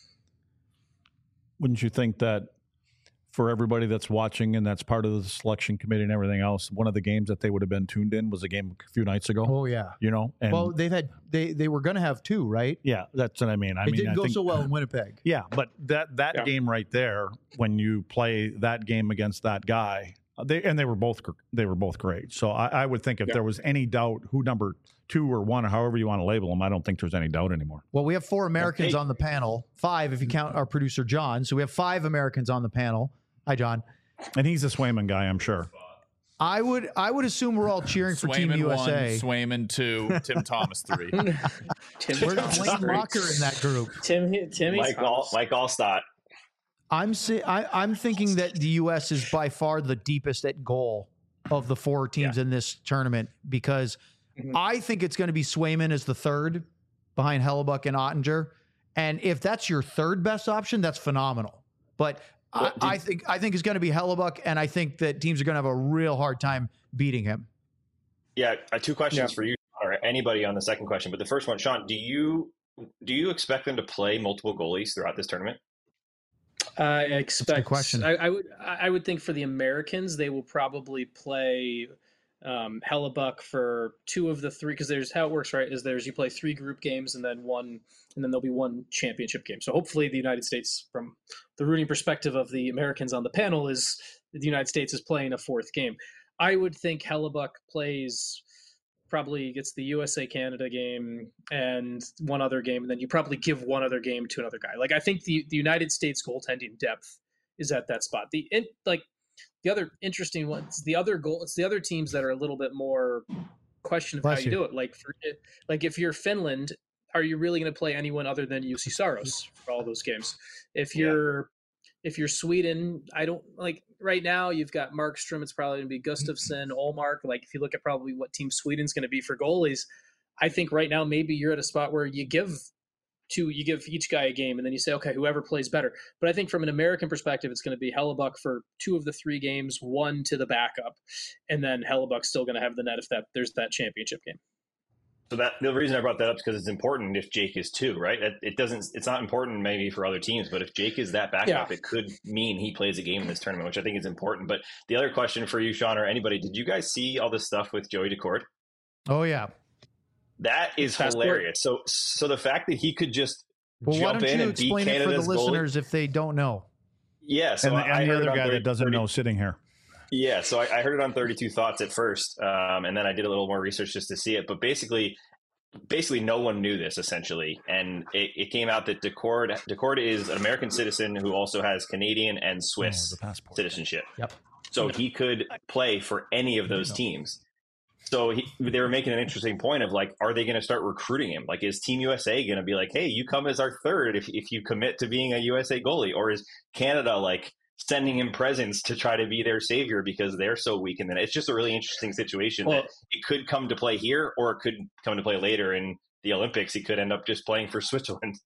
Wouldn't you think that for everybody that's watching and that's part of the selection committee and everything else, one of the games that they would have been tuned in was a game a few nights ago? Oh yeah, And well, they were going to have 2, right? Yeah, that's what I mean. It didn't go so well in Winnipeg. Yeah, but that game right there, when you play that game against that guy, they were both great. So I would think if there was any doubt who number 2 or 1 or however you want to label them, I don't think there's any doubt anymore. Well, we have 4 Americans on the panel, 5 if you count our producer John. So we have 5 Americans on the panel. Hi, John. And he's a Swayman guy, I'm sure. I would assume we're all cheering for Team USA. 1, Swayman 2, Tim Thomas 3. Where's Blaine Locker in that group? Timmy Mike Allstott. I'm thinking that the U.S. is by far the deepest at goal of the 4 teams in this tournament because I think it's going to be Swayman as the 3rd behind Hellebuyck and Oettinger. And if that's your 3rd best option, that's phenomenal. But I think it's going to be Hellebuyck, and I think that teams are going to have a real hard time beating him. Yeah, 2 questions for you or anybody on the second question. But the first one, Sean, do you expect them to play multiple goalies throughout this tournament? I expect. Question. I would think for the Americans, they will probably play Hellebuyck for 2 of the 3 because there's how it works, right? You play 3 group games and then there'll be 1 championship game. So hopefully the United States, from the rooting perspective of the Americans on the panel, is the United States is playing a 4th game. I would think Hellebuyck probably gets the USA Canada game and 1 other game, and then you probably give 1 other game to another guy. Like I think the United States goaltending depth is at that spot. The other interesting ones, it's the other teams that are a little bit more question of how you do it. Like if you're Finland, are you really going to play anyone other than UC Saros for all those games? If you're Sweden, I don't like right now. You've got Markstrom. It's probably going to be Gustafsson, Ullmark. Like if you look at probably what team Sweden's going to be for goalies, I think right now maybe you're at a spot where you give each guy a game, and then you say, okay, whoever plays better. But I think from an American perspective, it's going to be Hellebuyck for 2 of the 3 games, 1 to the backup, and then Hellebuck's still going to have the net if there's that championship game. So the reason I brought that up is because it's important if Jake is 2, right? It's not important maybe for other teams, but if Jake is that backup, it could mean he plays a game in this tournament, which I think is important. But the other question for you, Sean, or anybody, did you guys see all this stuff with Joey Daccord? Oh yeah. That is hilarious. So the fact that he could just jump in and beat Canada's goalie. Why don't you explain it for the listeners if they don't know? Yeah. So I heard the other guy that doesn't know sitting here. Yeah. So I heard it on 32 Thoughts at first. And then I did a little more research just to see it. But basically no one knew this essentially. And it came out that Daccord is an American citizen who also has Canadian and Swiss citizenship. Yep. So he could play for any of those teams. So they were making an interesting point of like, are they going to start recruiting him? Like, is Team USA going to be like, hey, you come as our 3rd if you commit to being a USA goalie? Or is Canada like sending him presents to try to be their savior because they're so weak? And then it's just a really interesting situation that it could come to play here or it could come to play later in the Olympics. He could end up just playing for Switzerland.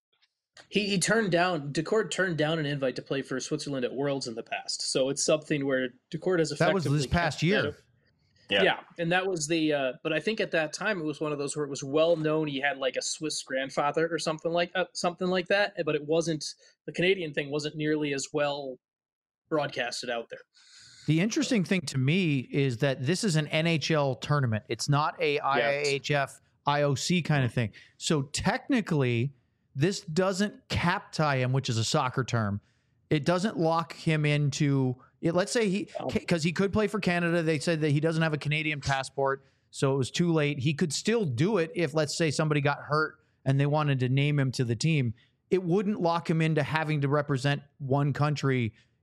Daccord turned down an invite to play for Switzerland at Worlds in the past. So it's something where Daccord has effectively... That was this past year. Yeah, and that was but I think at that time it was one of those where it was well known he had like a Swiss grandfather or something like that, but it wasn't, the Canadian thing wasn't nearly as well broadcasted out there. The interesting thing to me is that this is an NHL tournament. It's not a IIHF, IOC kind of thing. So technically, this doesn't cap tie him, which is a soccer term. It doesn't lock him into... Let's say because he could play for Canada. They said that he doesn't have a Canadian passport, so it was too late. He could still do it if, let's say, somebody got hurt and they wanted to name him to the team. It wouldn't lock him into having to represent one country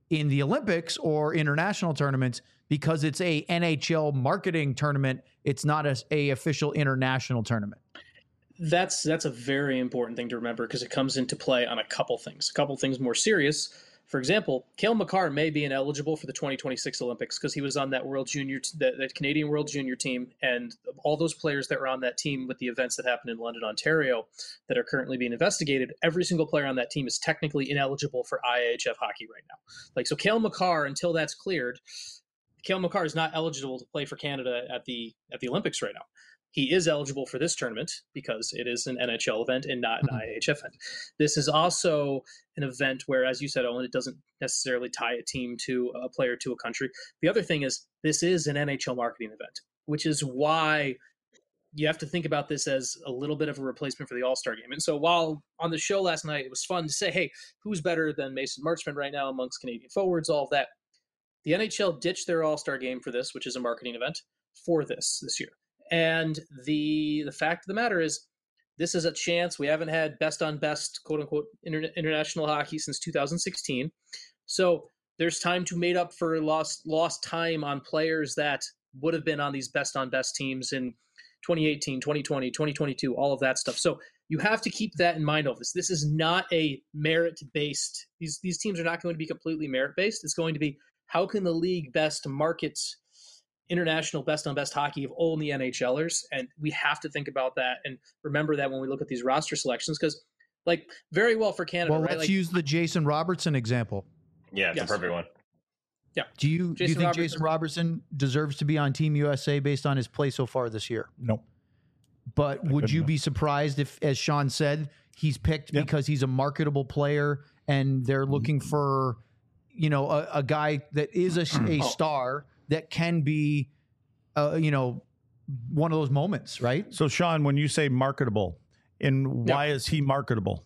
in the Olympics or international tournaments because it's a NHL marketing tournament. It's not a official international tournament. That's a very important thing to remember because it comes into play on a couple things more serious. For example, Cale Makar may be ineligible for the 2026 Olympics because he was on that World Junior, that Canadian World Junior team, and all those players that were on that team with the events that happened in London, Ontario, that are currently being investigated. Every single player on that team is technically ineligible for IIHF hockey right now. Like, so Cale Makar, until that's cleared, Cale Makar is not eligible to play for Canada at the Olympics right now. He is eligible for this tournament because it is an NHL event and not an IIHF event. This is also an event where, as you said, Owen, it doesn't necessarily tie a team to a player to a country. The other thing is this is an NHL marketing event, which is why you have to think about this as a little bit of a replacement for the All-Star game. And so while on the show last night, it was fun to say, hey, who's better than Mason Marchment right now amongst Canadian forwards, all of that. The NHL ditched their All-Star game for this, which is a marketing event, for this year. And the fact of the matter is, this is a chance. We haven't had best on best, quote unquote, international hockey since 2016. So there's time to make up for lost time on players that would have been on these best on best teams in 2018, 2020, 2022, all of that stuff. So you have to keep that in mind. All this. This is not a merit based. These teams are not going to be completely merit based. It's going to be, how can the league best market international best on best hockey of only NHLers? And we have to think about that and remember that when we look at these roster selections, because like very well for Canada. Well, right? let's like, use the Jason Robertson example. Yeah, it's a perfect one. Yeah. Do you think Jason Robertson deserves to be on Team USA based on his play so far this year? No. But would you be surprised if, as Sean said, he's picked because he's a marketable player and they're looking for, you know, a guy that is a star that can be, you know, one of those moments, right? So, Sean, when you say marketable, why is he marketable?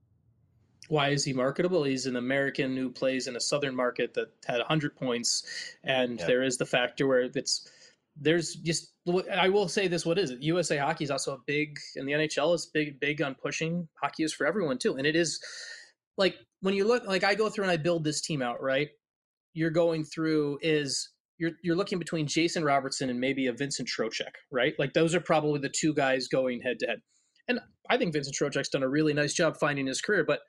Why is he marketable? He's an American who plays in a Southern market that had 100 points. And there is the factor where there's just, I will say this, what is it? USA Hockey is also a big, and the NHL is big on pushing. Hockey is for everyone too. And it is like, when you look, like I go through and I build this team out, right? You're going through you're looking between Jason Robertson and maybe a Vincent Trocheck, right? Like those are probably the two guys going head to head. And I think Vincent Trocheck's done a really nice job finding his career, but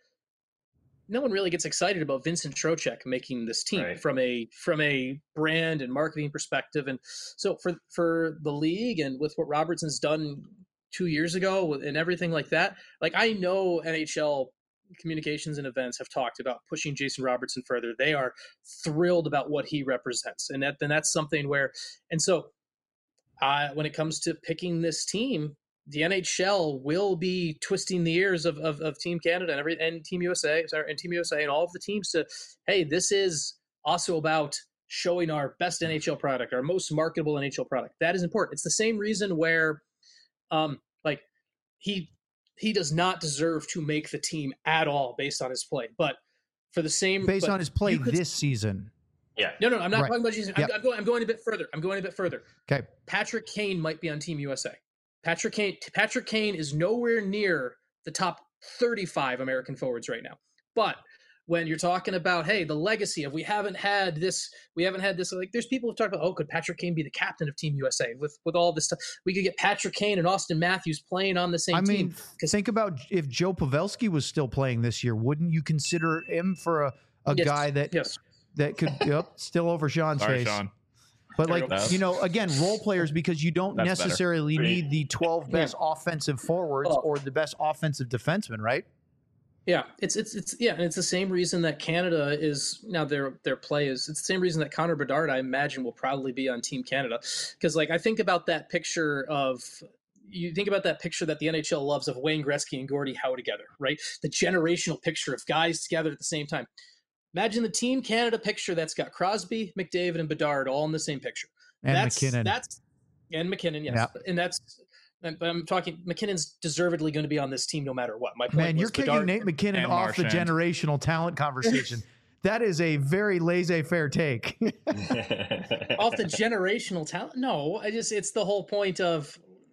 no one really gets excited about Vincent Trocheck making this team from a brand and marketing perspective. And so for the league and with what Robertson's done 2 years ago and everything like that, like I know NHL communications and events have talked about pushing Jason Robertson further. They are thrilled about what he represents. And that's something where, and so when it comes to picking this team, the NHL will be twisting the ears of Team Canada and Team USA, and all of the teams to, hey, this is also about showing our best NHL product, our most marketable NHL product. That is important. It's the same reason where, like he does not deserve to make the team at all based on his play, but for the same based on his play this season. Yeah. No, I'm not talking about Jesus. Yep. I'm going a bit further. Okay. Patrick Kane might be on Team USA. Patrick Kane is nowhere near the top 35 American forwards right now. But when you're talking about, hey, the legacy of we haven't had this, like there's people who talk about, oh, could Patrick Kane be the captain of Team USA with all this stuff? We could get Patrick Kane and Austin Matthews playing on the same team. I mean, think about if Joe Pavelski was still playing this year, wouldn't you consider him for a guy that could still over Sean's face? Sean. But like, you know, again, role players, because you don't necessarily need the 12 best offensive forwards or the best offensive defensemen, right? Yeah, it's and it's the same reason that Canada is now their play is. It's the same reason that Connor Bedard, I imagine, will probably be on Team Canada, because like I think about that picture that the NHL loves of Wayne Gretzky and Gordie Howe together, right? The generational picture of guys together at the same time. Imagine the Team Canada picture that's got Crosby, McDavid, and Bedard all in the same picture. And McKinnon. And McKinnon, yes. Yep. And but I'm talking, McKinnon's deservedly going to be on this team no matter what. My point you're kicking Nate McKinnon off the generational talent conversation. That is a very laissez-faire take. Off the generational talent? No, it's the whole point of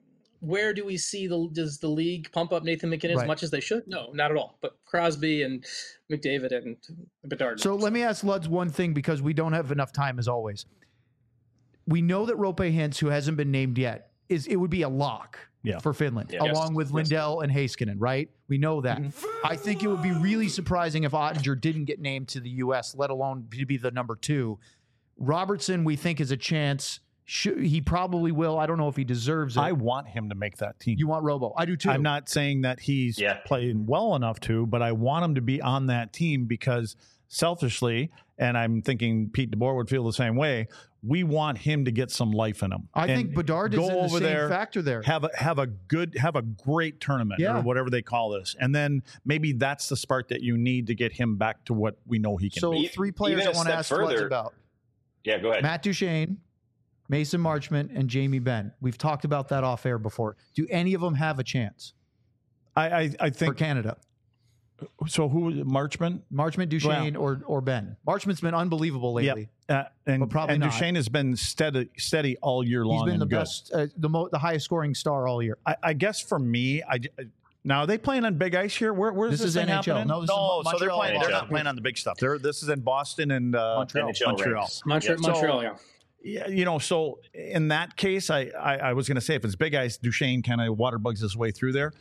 where do we see does the league pump up Nathan McKinnon as much as they should? No, not at all. But Crosby and McDavid and Bedard. So let me ask Luds one thing, because we don't have enough time as always. We know that Roope Hintz, who hasn't been named yet, it would be a lock for Finland, along with Lindell and Heiskanen, right? We know that. I think it would be really surprising if Ottinger didn't get named to the U.S., let alone to be the number 2. Robertson, we think, is a chance. He probably will. I don't know if he deserves it. I want him to make that team. You want Robo? I do too. I'm not saying that he's playing well enough to, but I want him to be on that team because selfishly, and I'm thinking Pete DeBoer would feel the same way, we want him to get some life in him. I think Bedard is in the same factor there. Have a great tournament or whatever they call this. And then maybe that's the spark that you need to get him back to what we know he can be. So 3 players I want to ask Floods about. Yeah, go ahead. Matt Duchene, Mason Marchment, and Jamie Benn. We've talked about that off air before. Do any of them have a chance? I think for Canada. So who was it? Marchment, Duchene, or Ben? Marchment's been unbelievable lately. And probably not. Duchene has been steady all year long. He's been the best, the highest scoring star all year. I guess for me, now are they playing on big ice here? Where's this thing NHL. happening? No, so they're playing. NHL. They're not playing on the big stuff. This is in Boston and Montreal. Montreal. Yeah, so in that case, I was going to say if it's big ice, Duchene kind of water bugs his way through there.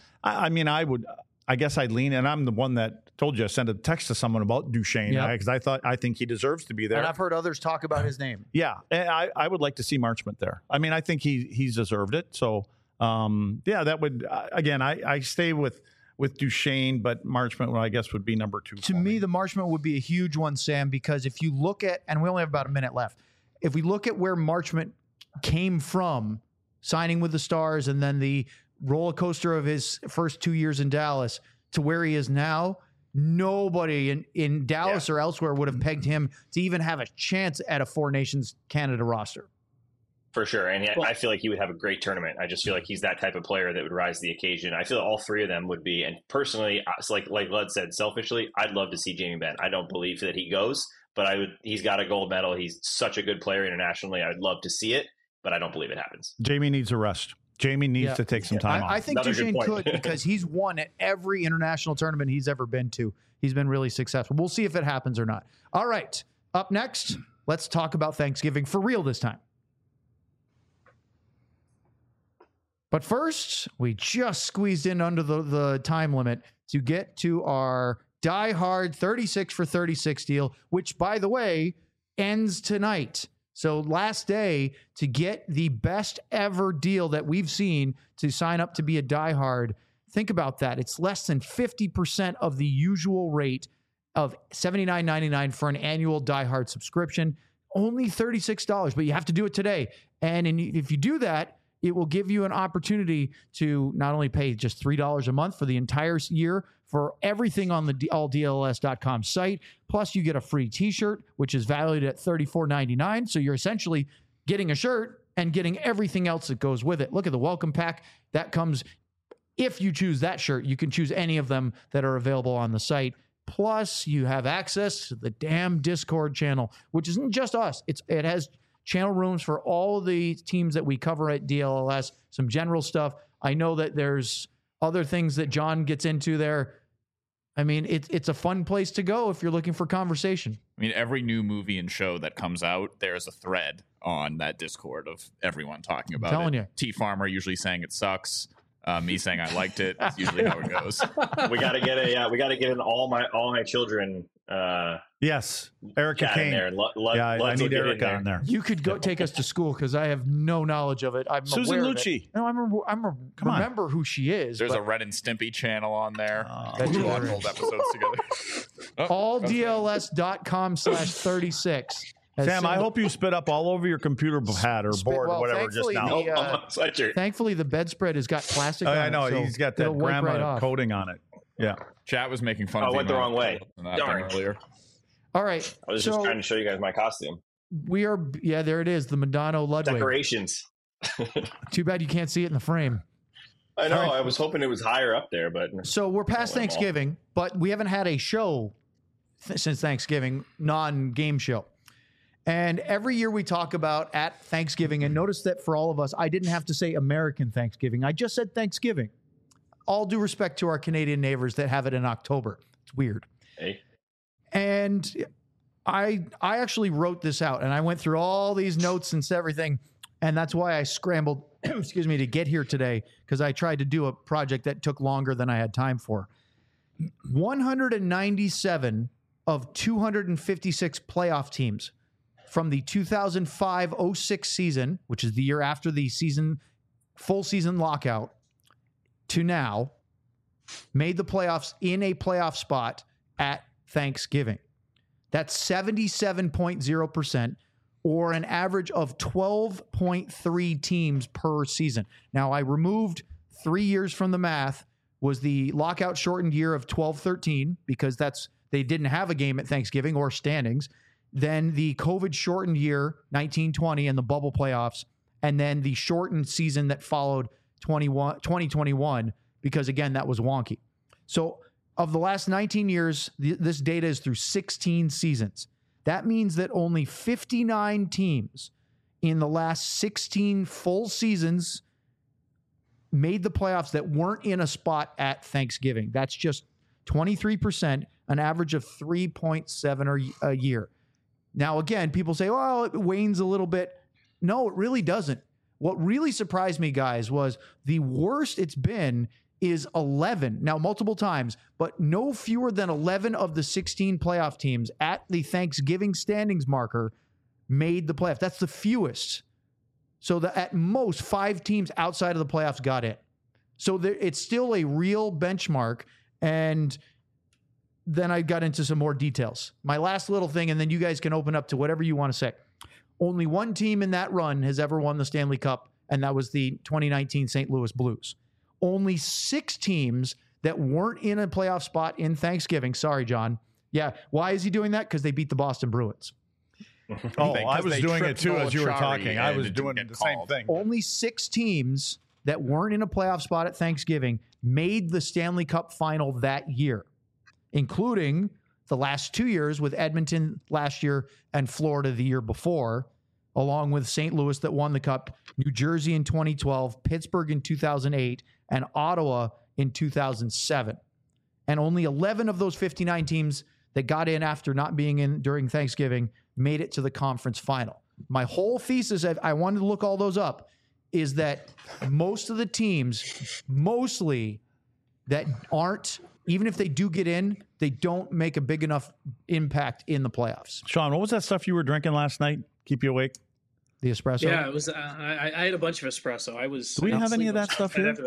I guess I'd lean, and I'm the one that told you I sent a text to someone about Duchene because I think he deserves to be there. And I've heard others talk about his name. Yeah, and I would like to see Marchment there. I mean, I think he's deserved it. So, that would again, I stay with Duchene, but Marchment, I guess, would be number 2. To me, the Marchment would be a huge one, Sam, because if you look at, and we only have about a minute left, if we look at where Marchment came from, signing with the Stars, and then the roller coaster of his first 2 years in Dallas to where he is now, nobody in Dallas or elsewhere would have pegged him to even have a chance at a 4 Nations Canada roster. For sure. And I feel like he would have a great tournament. I just feel like he's that type of player that would rise to the occasion. I feel all 3 of them would be. And personally, like Lud said, selfishly, I'd love to see Jamie Benn. I don't believe that he goes, but he's got a gold medal. He's such a good player internationally. I'd love to see it, but I don't believe it happens. Jamie needs a rest. Jamie needs to take some time off. I think Duchene could because he's won at every international tournament he's ever been to. He's been really successful. We'll see if it happens or not. All right. Up next, let's talk about Thanksgiving for real this time. But first, we just squeezed in under the time limit to get to our Die Hard 36 for 36 deal, which, by the way, ends tonight. So last day to get the best ever deal that we've seen to sign up to be a Die Hard. Think about that. It's less than 50% of the usual rate of $79.99 for an annual Die Hard subscription. Only $36, but you have to do it today. And if you do that, it will give you an opportunity to not only pay just $3 a month for the entire year for everything on the alldls.com site, plus you get a free t-shirt, which is valued at $34.99. So you're essentially getting a shirt and getting everything else that goes with it. Look at the welcome pack. That comes, if you choose that shirt, you can choose any of them that are available on the site. Plus, you have access to the damn Discord channel, which isn't just us. It has channel rooms for all the teams that we cover at DLLS, some general stuff. I know that there's other things that John gets into there. I mean, it's a fun place to go if you're looking for conversation. I mean, every new movie and show that comes out, there's a thread on that Discord of everyone talking about telling it. You. T Farmer usually saying it sucks. Me saying I liked it. That's usually how it goes. We got to get in all my children. Yes, Erica Kane. There. I need Erica on there. You could go take us to school because I have no knowledge of it. I'm Susan aware Lucci. No, I remember who she is. There's a Ren and Stimpy channel on there. We watch old episodes together. AllDLS.com/36. Sam, I hope you spit up all over your computer pad or board or whatever just now. Thankfully, the bedspread has got plastic on it. I know. He's got that grandma coating on it. Yeah. Chat was making fun of me. I went the wrong way. Darn. Earlier. All right. I was just trying to show you guys my costume. We are, there it is, the Madonna Ludwig. Decorations. Too bad you can't see it in the frame. I know. Right. I was hoping it was higher up there, but so we're past Thanksgiving, but we haven't had a show since Thanksgiving, non-game show. And every year we talk about at Thanksgiving, and notice that for all of us, I didn't have to say American Thanksgiving. I just said Thanksgiving. All due respect to our Canadian neighbors that have it in October. It's weird. Hey. And I actually wrote this out, and I went through all these notes and everything, and that's why I scrambled, excuse me, to get here today, because I tried to do a project that took longer than I had time for. 197 of 256 playoff teams from the 2005-06 season, which is the year after the full season lockout, to now, made the playoffs in a playoff spot at Thanksgiving. That's 77.0%, or an average of 12.3 teams per season. Now, I removed 3 years from the math, was the lockout shortened year of 12-13, because they didn't have a game at Thanksgiving or standings. Then the COVID shortened year, 1920, and the bubble playoffs, and then the shortened season that followed 2021, because again, that was wonky. So of the last 19 years, this data is through 16 seasons. That means that only 59 teams in the last 16 full seasons made the playoffs that weren't in a spot at Thanksgiving. That's just 23%, an average of 3.7 a year. Now, again, people say, well, it wanes a little bit. No, it really doesn't. What really surprised me, guys, was the worst it's been is 11. Now, multiple times, but no fewer than 11 of the 16 playoff teams at the Thanksgiving standings marker made the playoffs. That's the fewest. So at most, 5 teams outside of the playoffs got in. So it's still a real benchmark. And then I got into some more details. My last little thing, and then you guys can open up to whatever you want to say. Only one team in that run has ever won the Stanley Cup, and that was the 2019 St. Louis Blues. Only 6 teams that weren't in a playoff spot in Thanksgiving. Sorry, John. Yeah. Why is he doing that? Because they beat the Boston Bruins. Oh, I was doing it too as you were talking. I was doing the same thing. Only 6 teams that weren't in a playoff spot at Thanksgiving made the Stanley Cup final that year, including the last 2 years with Edmonton last year and Florida the year before, along with St. Louis that won the Cup, New Jersey in 2012, Pittsburgh in 2008, and Ottawa in 2007. And only 11 of those 59 teams that got in after not being in during Thanksgiving made it to the conference final. My whole thesis, I wanted to look all those up, is that most of the teams, mostly that aren't, even if they do get in, they don't make a big enough impact in the playoffs. Sean, what was that stuff you were drinking last night? Keep you awake? The espresso? Yeah, it was. I had a bunch of espresso. Do we have any of that stuff here?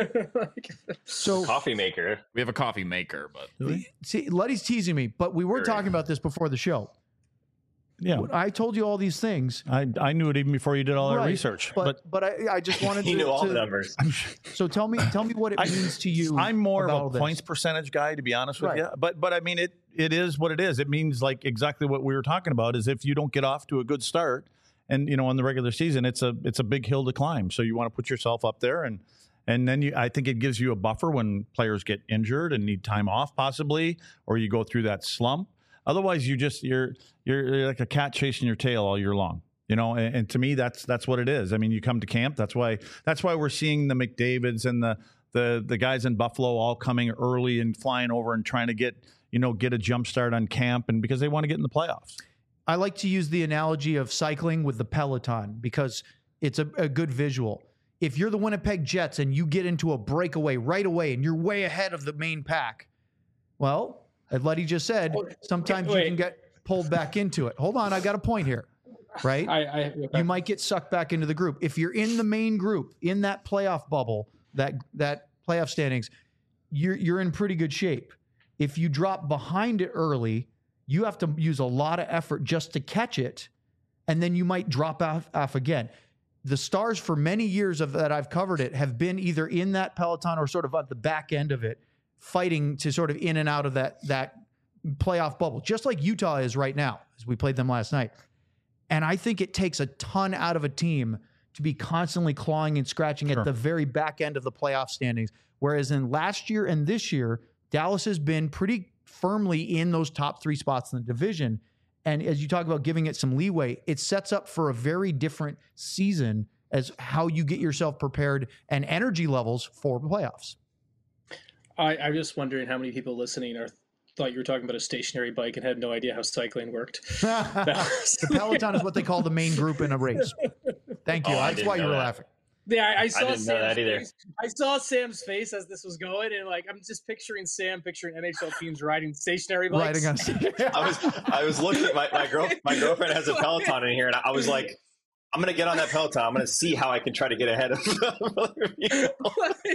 So coffee maker. We have a coffee maker, but see, Luddy's teasing me, but we were talking about this before the show. Yeah, I told you all these things. I knew it even before you did all that research. But I just wanted you to know all the numbers. So tell me what it means to you. I'm more about of a points percentage guy, to be honest with Right. you. But I mean, it is what it is. It means like exactly what we were talking about. Is if you don't get off to a good start, and in the regular season, it's a big hill to climb. So you want to put yourself up there, and then I think it gives you a buffer when players get injured and need time off, possibly, or you go through that slump. Otherwise, you're like a cat chasing your tail all year long, And to me, that's what it is. I mean, you come to camp. That's why we're seeing the McDavids and the guys in Buffalo all coming early and flying over and trying to get a jump start on camp, and because they want to get in the playoffs. I like to use the analogy of cycling with the Peloton because it's a good visual. If you're the Winnipeg Jets and you get into a breakaway right away and you're way ahead of the main pack, well, as Luddy just said, sometimes you can get pulled back into it. Hold on, I got a point here, right? You might get sucked back into the group. If you're in the main group, in that playoff bubble, that playoff standings, you're in pretty good shape. If you drop behind it early, you have to use a lot of effort just to catch it, and then you might drop off again. The Stars, for many years that I've covered it, have been either in that peloton or sort of at the back end of it, fighting to sort of in and out of that playoff bubble, just like Utah is right now, as we played them last night. And I think it takes a ton out of a team to be constantly clawing and scratching at the very back end of the playoff standings, whereas in last year and this year, Dallas has been pretty firmly in those top 3 spots in the division. And as you talk about giving it some leeway, it sets up for a very different season as how you get yourself prepared and energy levels for the playoffs. I'm just wondering how many people listening thought you were talking about a stationary bike and had no idea how cycling worked. The Peloton is what they call the main group in a race. Thank you. That's why you were laughing. Yeah, I saw didn't know that either. I saw Sam's face as this was going, and like I'm just picturing NHL teams riding stationary bikes. I was looking at my girlfriend has a Peloton in here, and I was like, I'm going to get on that Peloton. I'm going to see how I can try to get ahead of other people.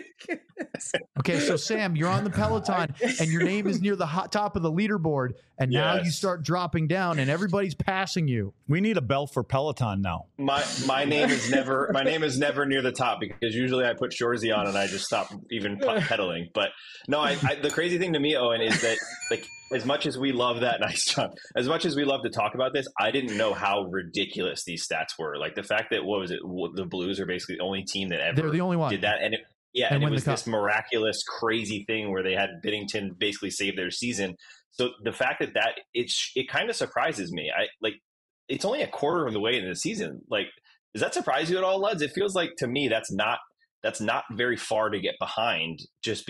Okay, so Sam, you're on the Peloton, and your name is near the top of the leaderboard, and now you start dropping down, and everybody's passing you. We need a bell for Peloton now. My name is never near the top, because usually I put Shorzy on and I just stop even pedaling. But no, the crazy thing to me, Owen, is that like as much as we love that, nice job, as much as we love to talk about this, I didn't know how ridiculous these stats were. Like the fact that the Blues are basically the only team that ever They're the only one. did that, and it was this miraculous, crazy thing where they had Binnington basically save their season. So the fact that it kind of surprises me. It's only a quarter of the way into the season. Like, does that surprise you at all, Luds? It feels like to me that's not very far to get behind. Just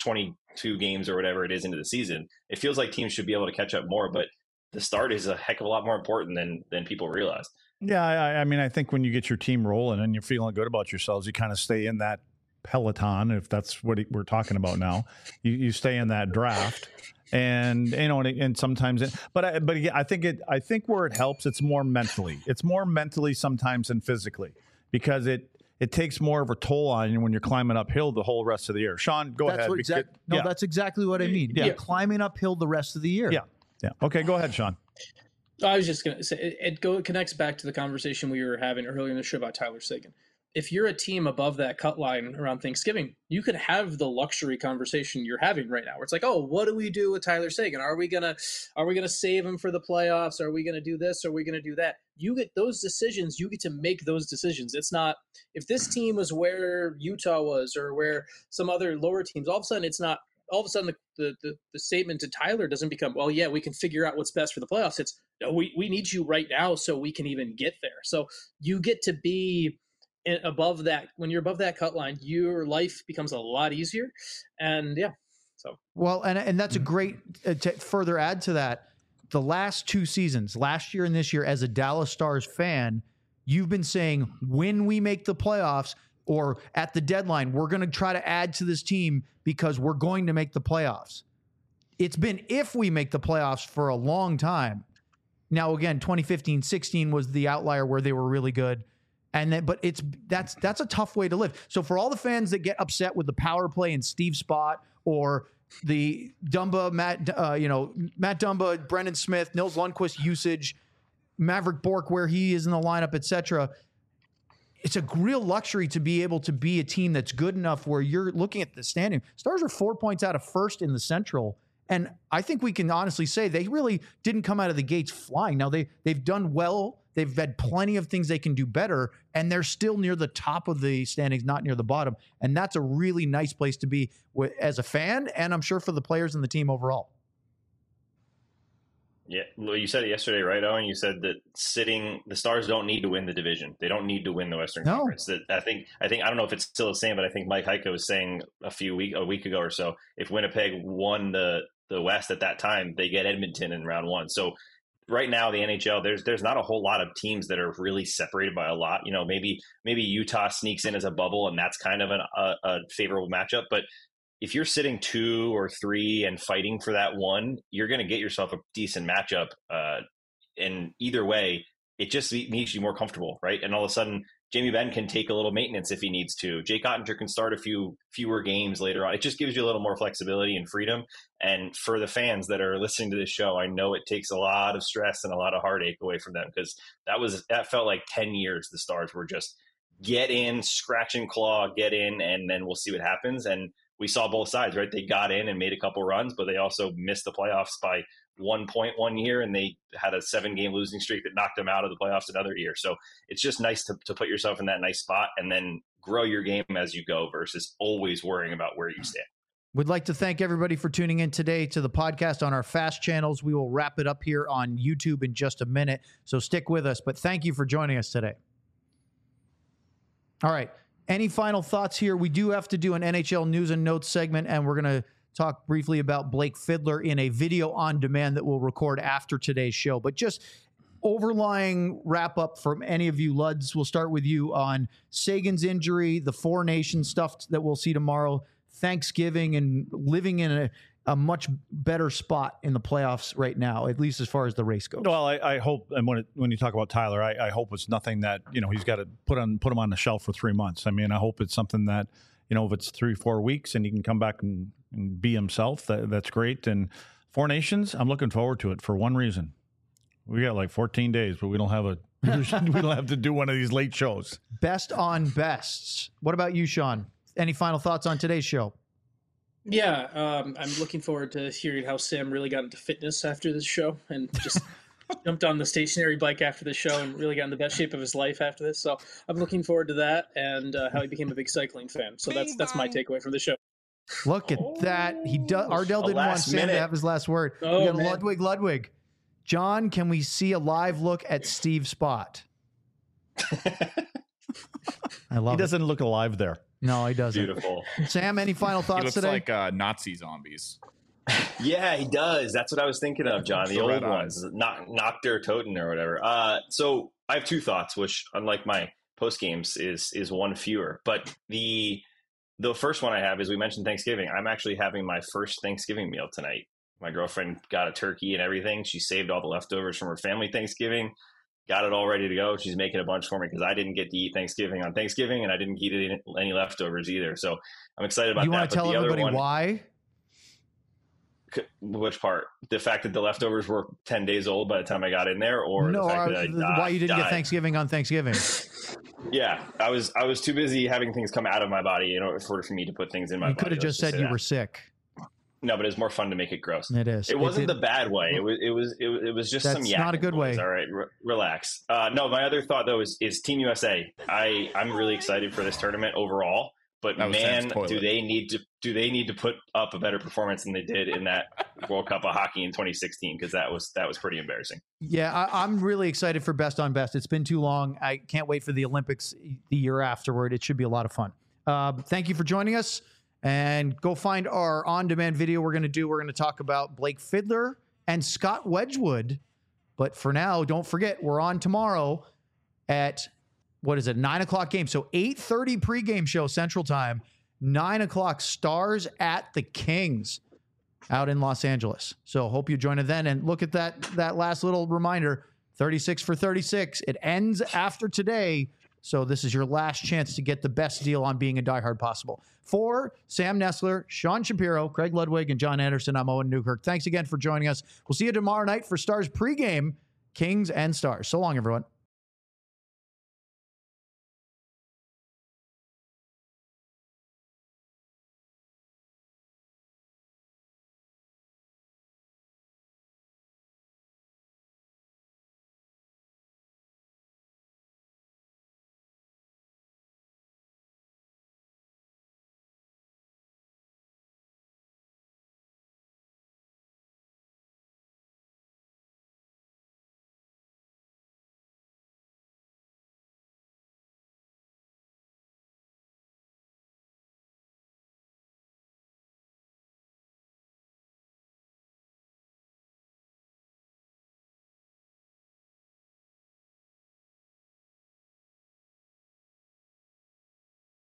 22 games or whatever it is into the season. It feels like teams should be able to catch up more, but the start is a heck of a lot more important than people realize. Yeah, I mean, I think when you get your team rolling and you're feeling good about yourselves, you kind of stay in that Peloton, if that's what we're talking about now. You stay in that draft. And and sometimes, I think where it helps, it's more mentally. It's more mentally sometimes than physically, because it takes more of a toll on you when you're climbing uphill the whole rest of the year. Sean, go ahead. That's exactly what I mean. Yeah, climbing uphill the rest of the year. Yeah. Okay, go ahead, Sean. I was just going to say it connects back to the conversation we were having earlier in the show about Tyler Seguin. If you're a team above that cut line around Thanksgiving, you could have the luxury conversation you're having right now, where it's like, oh, what do we do with Tyler Seguin? Are we gonna save him for the playoffs? Are we gonna do this? Are we gonna do that? You get those decisions. You get to make those decisions. It's not if this team was where Utah was or where some other lower teams. All of a sudden, it's not. All of a sudden, the statement to Tyler doesn't become, well, yeah, we can figure out what's best for the playoffs. It's no, we need you right now so we can even get there. So you get to be above that. When you're above that cut line, your life becomes a lot easier. And and that's a great to further add to that. The last two seasons, last year and this year, as a Dallas Stars fan, you've been saying when we make the playoffs or at the deadline, we're going to try to add to this team because we're going to make the playoffs. It's been if we make the playoffs for a long time. Now, again, 2015-16 was the outlier where they were really good. But that's a tough way to live. So for all the fans that get upset with the power play and Steve Spott or the Matt Dumba, Brendan Smith, Nils Lundqvist usage, Maverick Bourque where he is in the lineup, etc., it's a real luxury to be able to be a team that's good enough where you're looking at the standing. Stars are 4 points out of first in the Central. And I think we can honestly say they really didn't come out of the gates flying. Now, they've done well. They've had plenty of things they can do better, and they're still near the top of the standings, not near the bottom. And that's a really nice place to be as a fan, and I'm sure for the players and the team overall. Yeah, well, you said it yesterday, right, Owen? You said that the Stars don't need to win the division. They don't need to win the Western Conference. That I think I don't know if it's still the same, but I think Mike Heiko was saying a week ago or so, if Winnipeg won the West at that time, they get Edmonton in round one. So right now, the NHL, there's not a whole lot of teams that are really separated by a lot. You know, maybe Utah sneaks in as a bubble, and that's kind of a favorable matchup. But if you're sitting 2 or 3 and fighting for that one, you're going to get yourself a decent matchup. And either way, it just makes you more comfortable, right? And all of a sudden, Jamie Benn can take a little maintenance if he needs to. Jake Ottinger can start a fewer games later on. It just gives you a little more flexibility and freedom. And for the fans that are listening to this show, I know it takes a lot of stress and a lot of heartache away from them, because that felt like 10 years the Stars were just get in, scratch and claw, get in, and then we'll see what happens. And we saw both sides, right? They got in and made a couple runs, but they also missed the playoffs by 1 point one year, and they had a 7-game losing streak that knocked them out of the playoffs another year. So it's just nice to put yourself in that nice spot and then grow your game as you go versus always worrying about where you stand. We'd like to thank everybody for tuning in today to the podcast on our FAST channels. We will wrap it up here on YouTube in just a minute, so stick with us. But thank you for joining us today. All right. Any final thoughts here? We do have to do an NHL news and notes segment, and we're going to talk briefly about Blake Fiddler in a video on demand that we'll record after today's show. But just overlying wrap up from any of you, Luds, we'll start with you on Sagan's injury, the Four Nations stuff that we'll see tomorrow, Thanksgiving, and living in a much better spot in the playoffs right now, at least as far as the race goes. Well, I hope, and when you talk about Tyler, I hope it's nothing that, he's got to put him on the shelf for 3 months. I mean, I hope it's something that, if it's 3-4 weeks and he can come back and be himself, that's great. And Four Nations, I'm looking forward to it for one reason. We got like 14 days, but we don't have to do one of these late shows. Best on bests. What about you, Sean? Any final thoughts on today's show? Yeah, I'm looking forward to hearing how Sam really got into fitness after this show and just jumped on the stationary bike after the show and really got in the best shape of his life after this. So I'm looking forward to that and how he became a big cycling fan. So that's my takeaway from the show. Look at that. Ardell didn't want Sam to have his last word. Oh, we got man. Ludwig. John, can we see a live look at Steve Spot? I love He doesn't look alive there. No, he doesn't. Beautiful. Sam, any final He thoughts looks today? like Nazi zombies. Yeah, he does. That's what I was thinking of, John. The The old red ones, not their Toten or whatever. So I have 2 thoughts, which, unlike my post games, is one fewer. But the first one I have is, we mentioned Thanksgiving. I'm actually having my first Thanksgiving meal tonight. My girlfriend got a turkey and everything. She saved all the leftovers from her family Thanksgiving. Got it all ready to go. She's making a bunch for me because I didn't get to eat Thanksgiving on Thanksgiving, and I didn't eat any leftovers either. So I'm excited about You that. want to tell everybody why? Which part? The fact that the leftovers were 10 days old by the time I got in there, or No, the fact that why you didn't get died? Thanksgiving on Thanksgiving? Yeah, I was too busy having things come out of my body in order for me to put things in my You body. could have just said you were sick. No, but it's more fun to make it gross. It is. It wasn't did- the bad way. It was just That's some not a yakking good boys. way. All right, relax. No, my other thought though is Team USA. I'm really excited for this tournament overall. But That was Sam's man, toilet. do they need to put up a better performance than they did in that World Cup of Hockey in 2016? Because that was pretty embarrassing. Yeah, I'm really excited for Best on Best. It's been too long. I can't wait for the Olympics the year afterward. It should be a lot of fun. Thank you for joining us. And go find our on-demand video we're going to do. We're going to talk about Blake Fiddler and Scott Wedgwood. But for now, don't forget, we're on tomorrow at, 9 o'clock game. So 8:30 pregame show Central Time, 9 o'clock Stars at the Kings out in Los Angeles. So hope you join us then. And look at that last little reminder, 36 for 36. It ends after today. So this is your last chance to get the best deal on being a diehard possible. For Sam Nestler, Sean Shapiro, Craig Ludwig, and John Anderson, I'm Owen Newkirk. Thanks again for joining us. We'll see you tomorrow night for Stars pregame, Kings and Stars. So long, everyone.